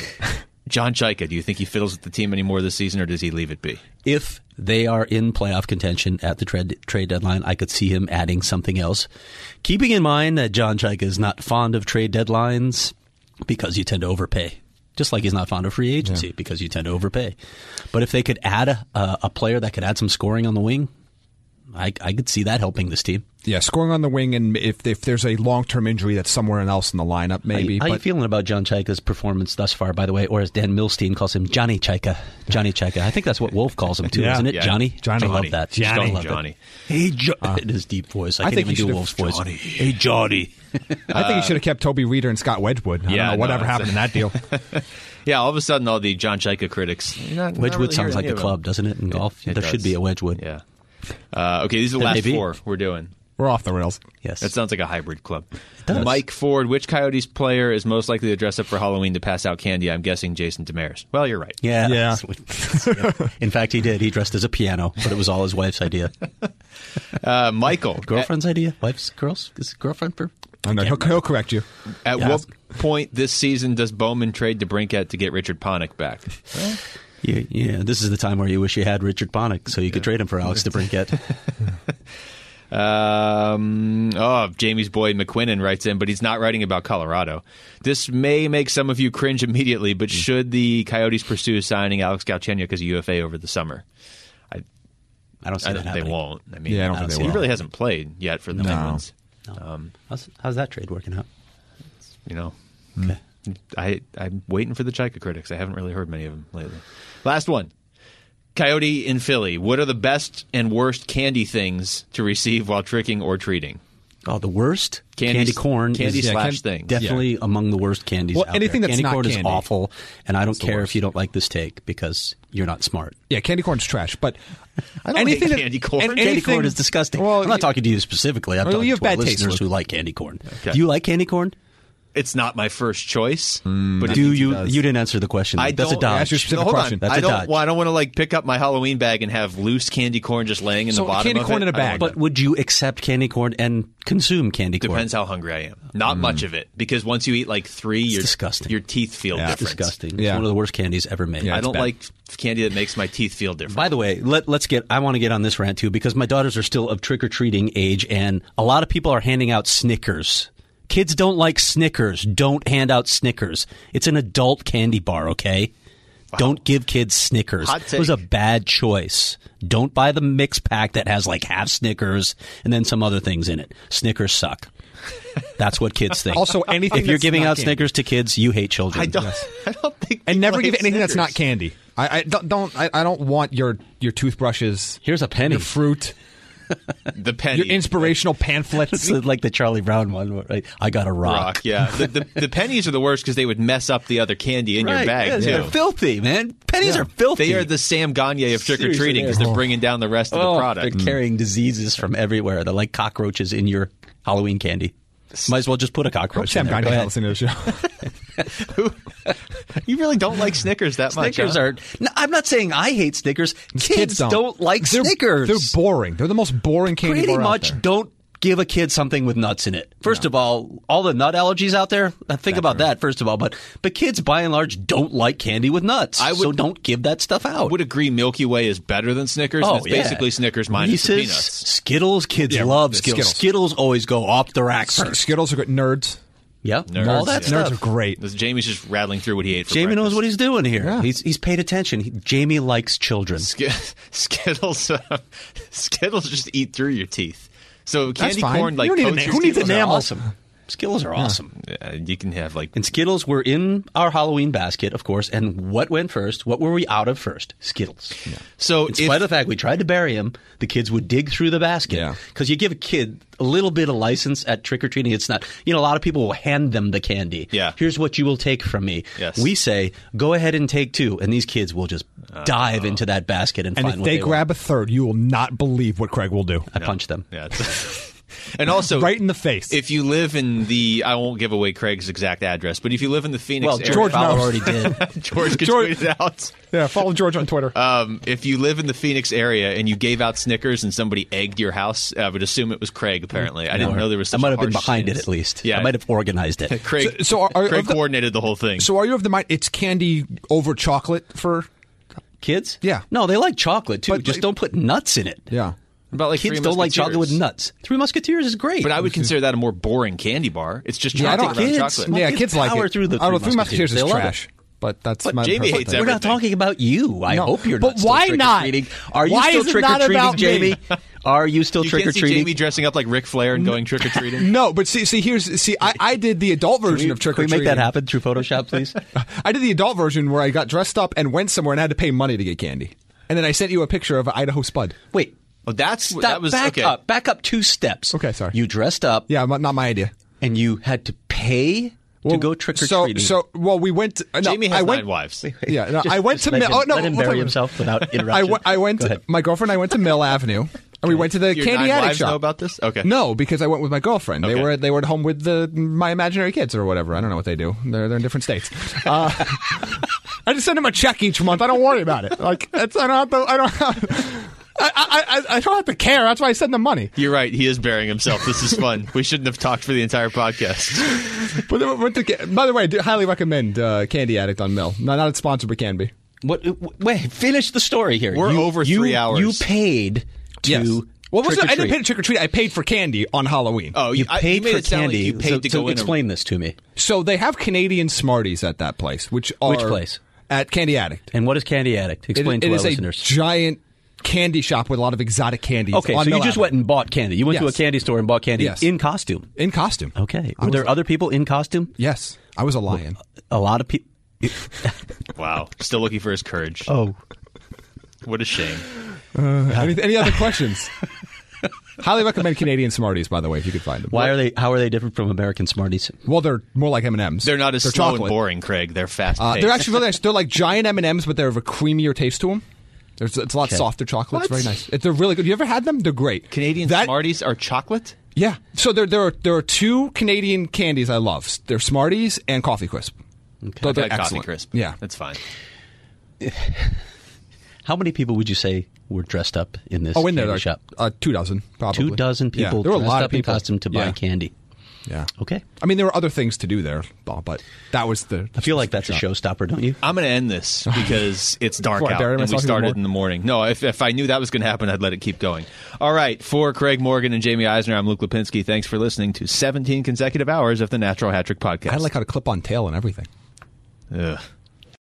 John Chaika, do you think he fiddles with the team anymore this season, or does he leave it be? If they are in playoff contention at the trade, trade deadline, I could see him adding something else. Keeping in mind that John Chaika is not fond of trade deadlines because you tend to overpay. Just like he's not fond of free agency yeah. because you tend to overpay. But if they could add a, a, a player that could add some scoring on the wing, I, I could see that helping this team. Yeah, scoring on the wing, and if if there's a long-term injury that's somewhere else in the lineup, maybe. How, how but, you feeling about John Chaika's performance thus far, by the way? Or as Dan Milstein calls him, Johnny Chaika. Johnny Chaika. I think that's what Wolf calls him, too, Yeah. isn't it? Yeah. Johnny? Johnny. I love that. Johnny. I love Johnny. That. Hey, jo- uh, in his deep voice. I, I can't think even he do should've- Wolf's voice. Johnny. Hey, Johnny. I think he should have kept Toby Reeder and Scott Wedgwood. I Yeah, don't know whatever no, happened in that deal. Yeah, all of a sudden, all the John Chaika critics. Not, not Wedgwood really sounds hearing like any a of club, them. doesn't it, in golf? It there does. should be a Wedgwood. Yeah. Uh, okay, these are the There may last be. four we're doing. We're off the rails. Yes. That sounds like a hybrid club. does. Mike Ford, which Coyotes player is most likely to dress up for Halloween to pass out candy? I'm guessing Jason Demers. Well, you're right. Yeah. Yeah. In fact, he did. He dressed as a piano, but it was all his wife's idea. Uh, Michael, Girlfriend's idea? Wife's? Girl's? Is it girlfriend? For? I know, he'll, he'll correct you. At, at Yeah. what point this season does Bowman trade to Brinkett to get Richard Panik back? Yeah, yeah, this is the time where you wish you had Richard Panik so you could trade him for Alex DeBrincat. Um, oh, Jamie's boy McQuinnan writes in, but he's not writing about Colorado. This may make some of you cringe immediately, but should the Coyotes pursue signing Alex Galchenyuk as a U F A over the summer? I, I don't see I that don't, they happening. won't. I mean, Yeah, I don't I think don't they see he will. really hasn't played yet for the No. Penguins. No. Um, how's, how's that trade working out? you know, Okay. I, I'm waiting for the Chaika critics. I haven't really heard many of them lately. Last one. Coyote in Philly. What are the best and worst candy things to receive while tricking or treating? Oh, the worst? Candy- candy corn candy is slash can- things. definitely among the worst candies Well, out anything there. that's candy not corn is candy. awful, and I don't the care worst. if you don't like this take because you're not smart. Yeah, candy corn's trash, but I don't anything hate that- candy corn. and Candy Candy anything- corn is disgusting. Well, I'm not you- talking to you specifically. I'm Well, talking you have to our bad taste, listeners Luke. who like candy corn. Okay. Do you like candy corn? It's not my first choice. but it- Do think he you? does. You didn't answer the question. I That's a don't- dodge. Ask your specific No, hold question. on. That's I a don't. dodge. Well, I don't want to like pick up my Halloween bag and have loose candy corn just laying in So the bottom candy of corn it. in a I don't bag. want But would you accept candy corn and consume candy that. corn? Depends how hungry I am. Not much of it because once you eat like three, your disgusting. your teeth feel Yeah, it's different. Disgusting. Yeah. It's one of the worst candies ever made. Yeah. I it's don't bad. like candy that makes my teeth feel different. By the way, let, let's get. I want to get on this rant too because my daughters are still of trick or treating age, and a lot of people are handing out Snickers. Kids don't like Snickers. Don't hand out Snickers. It's an adult candy bar, okay? Don't give kids Snickers. Hot It was a take. bad choice. Don't buy the mix pack that has like half Snickers and then some other things in it. Snickers suck. That's what kids think. Also, anything if you're that's giving not out candy. Snickers to kids, you hate children. I don't. I don't think. and people never hate give anything that's not Snickers. candy. I, I don't. don't I, I don't want your your toothbrushes, Here's a penny. your fruit. The penny. Your inspirational pamphlets. It's like the Charlie Brown one, right? I got a rock. rock yeah. The, the, the pennies are the worst because they would mess up the other candy in Right, your bag, yeah, too. They're filthy, man. Pennies are filthy. They are the Sam Gagne of trick-or-treating Seriously, because they are. they're bringing down the rest of oh, the product. They're carrying diseases from everywhere. They're like cockroaches in your Halloween candy. Might as well just put a cockroach Sam in there. Gagne Go ahead. listening to the show. You really don't like Snickers that much, Snickers huh? are. No, I'm not saying I hate Snickers. Kids, kids don't. don't. like They're, Snickers. They're boring. They're the most boring candy Pretty bar out much there. don't give a kid something with nuts in it. First of all, all the nut allergies out there, uh, think about that first of all. But but kids, by and large, don't like candy with nuts. I would- so don't give that stuff out. I would agree Milky Way is better than Snickers. Oh, and it's yeah. basically Snickers minus the Reese's, peanuts. Skittles, kids Yeah, love the Skittles. Skittles. Skittles always go off the rack first. Skittles are good. Nerds. Yep, Nerds, all that yeah. stuff. Nerds are great. This- Jamie's just rattling through what he ate for Jamie knows breakfast. what he's doing here. Yeah. He's he's paid attention. He, Jamie likes children. Sk- Skittles, uh, Skittles just eat through your teeth. So candy fine. corn, like You don't need coats a- your who needs Skittles are enamel? awesome. Skittles are awesome. Yeah, you can have like And Skittles were in our Halloween basket, of course. And what went first? What were we out of first? Skittles. so. In If, spite of the fact we tried to bury him, the kids would dig through the basket. Yeah. Because you give a kid a little bit of license at trick-or-treating. It's not, you know, a lot of people will hand them the candy. Yeah. Here's what you will take from me. Yes. We say, go ahead and take two. And these kids will just dive into that basket and, And find if what they they grab want. a third, you will not believe what Craig will do. I punch them. yeah, it's- and also Right in the face. If you live in the, I won't give away Craig's exact address, but if you live in the Phoenix Well, area, George Fowler knows. already did. George can George- tweet it out. Yeah, follow George on Twitter. Um, if you live in the Phoenix area and you gave out Snickers and somebody egged your house, I would assume it was Craig. Apparently, I didn't know there was. Such I might a have been harsh behind it stance. at least. Yeah, I might have organized it. Craig. So- so are- are- Craig of the- coordinated the whole thing. So are you of the mind it's candy over chocolate for? Kids? Yeah. No, they like chocolate too. But- Just don't put nuts in it. Yeah. About like Kids Three don't like chocolate with Musketeers. nuts. Three Musketeers is great. But I would consider that a more boring candy bar. It's just Yeah, I chocolate don't- around kids- chocolate. Well, yeah, kids kids like power it. through the I don't know. Three Three Musketeers Musketeers. is They love trash. But that's But my Jamie personal hates thing. We're not everything. talking about you. I No. hope you're But not still why not? trick-or-treating. Are you Why still is it not trick-or-treating, about me? Jamie? Are you still You can't see trick-or-treating? Jamie dressing up like Ric Flair and going trick or treating. No, but see, see, here's see, I, I did the adult version Can we- of trick Can or we treating. make that happen through Photoshop, please? I did the adult version where I got dressed up and went somewhere and had to pay money to get candy, and then I sent you a picture of Idaho Spud. Wait. Oh, that's Stop, that was back okay. up. Back up two steps. Okay, sorry. You dressed up Yeah, not not my idea. and you had to pay to go trick-or-treating. So, so well, we went. To, uh, no, Jamie has I nine went, wives. Yeah, no, Just- I went just to let Mill. him- Oh no, let him we'll bury talk- himself without interruption. I went. I went Go to, ahead. my girlfriend and I went to Mill Avenue, and we went to the Your candy nine addict wives shop. know about this? Okay. No, because I went with my girlfriend. They Okay. were they were at home with the my imaginary kids or whatever. I don't know what they do. They're they're in different states. Uh, I just send them a check each month. I don't worry about it. Like it's, I don't have to. I don't. Have, I, I, I, I don't have to care. That's why I send them money. You're right. He is burying himself. This is fun. We shouldn't have talked for the entire podcast. But then we went to, by the way, I do highly recommend uh, Candy Addict on Mill. Not not sponsored, but can be. What, wait, finish the story here. We're You- over you- three hours. You paid to Yes. Well, it wasn't- I didn't trick-or-treat. pay to trick or treat. I paid for candy on Halloween. Oh, You I- paid made for it sound like candy. you paid so, to so go in. explain this to me. So they have Canadian Smarties at that place, which are Which place? At Candy Addict. And what is Candy Addict? Explain it, to it our is listeners. a giant candy shop with a lot of exotic candies. Okay, on so you Mill just Avenue. went and bought candy. You went to a Yes. candy store and bought candy Yes. in costume. in costume. Okay. I Were was- there other people in costume? Yes, I was a lion. A lot of people. Wow. Still looking for his courage. Oh. What a shame. any, any other questions? Highly recommend Canadian Smarties, by the way, if you could find them. Why are they? How are they different from American Smarties? Well, they're more like M and M's. They're not as they're slow chocolate. and boring, Craig. They're fast Uh, paced. they're actually really nice. They're like giant M and M's, but they have a creamier taste to them. There's, it's a lot Okay. softer chocolate. It's What? very nice. It- They're really good. You ever had them? They're great. Canadian That- Smarties are chocolate? Yeah. So there, there are there are two Canadian candies I love. They're Smarties and Coffee Crisp. Okay. They're I've had Coffee excellent. Crisp. Yeah. That's fine. How many people would you say were dressed up in this Oh, in there, candy like, shop? uh, two dozen, probably. Two dozen people Yeah, there were a dressed lot up of people in costume to buy Yeah. candy. Yeah. Okay. I mean, there were other things to do there, but that was the. I feel like that's a showstopper, don't you? I'm going to end this because it's dark Before I out bury and we myself even started more? in the morning. No, if, if I knew that was going to happen, I'd let it keep going. All right. For Craig Morgan and Jamie Eisner, I'm Luke Lipinski. Thanks for listening to seventeen consecutive hours of the Natural Hat Trick Podcast. I like how to clip on tail and everything. Ugh.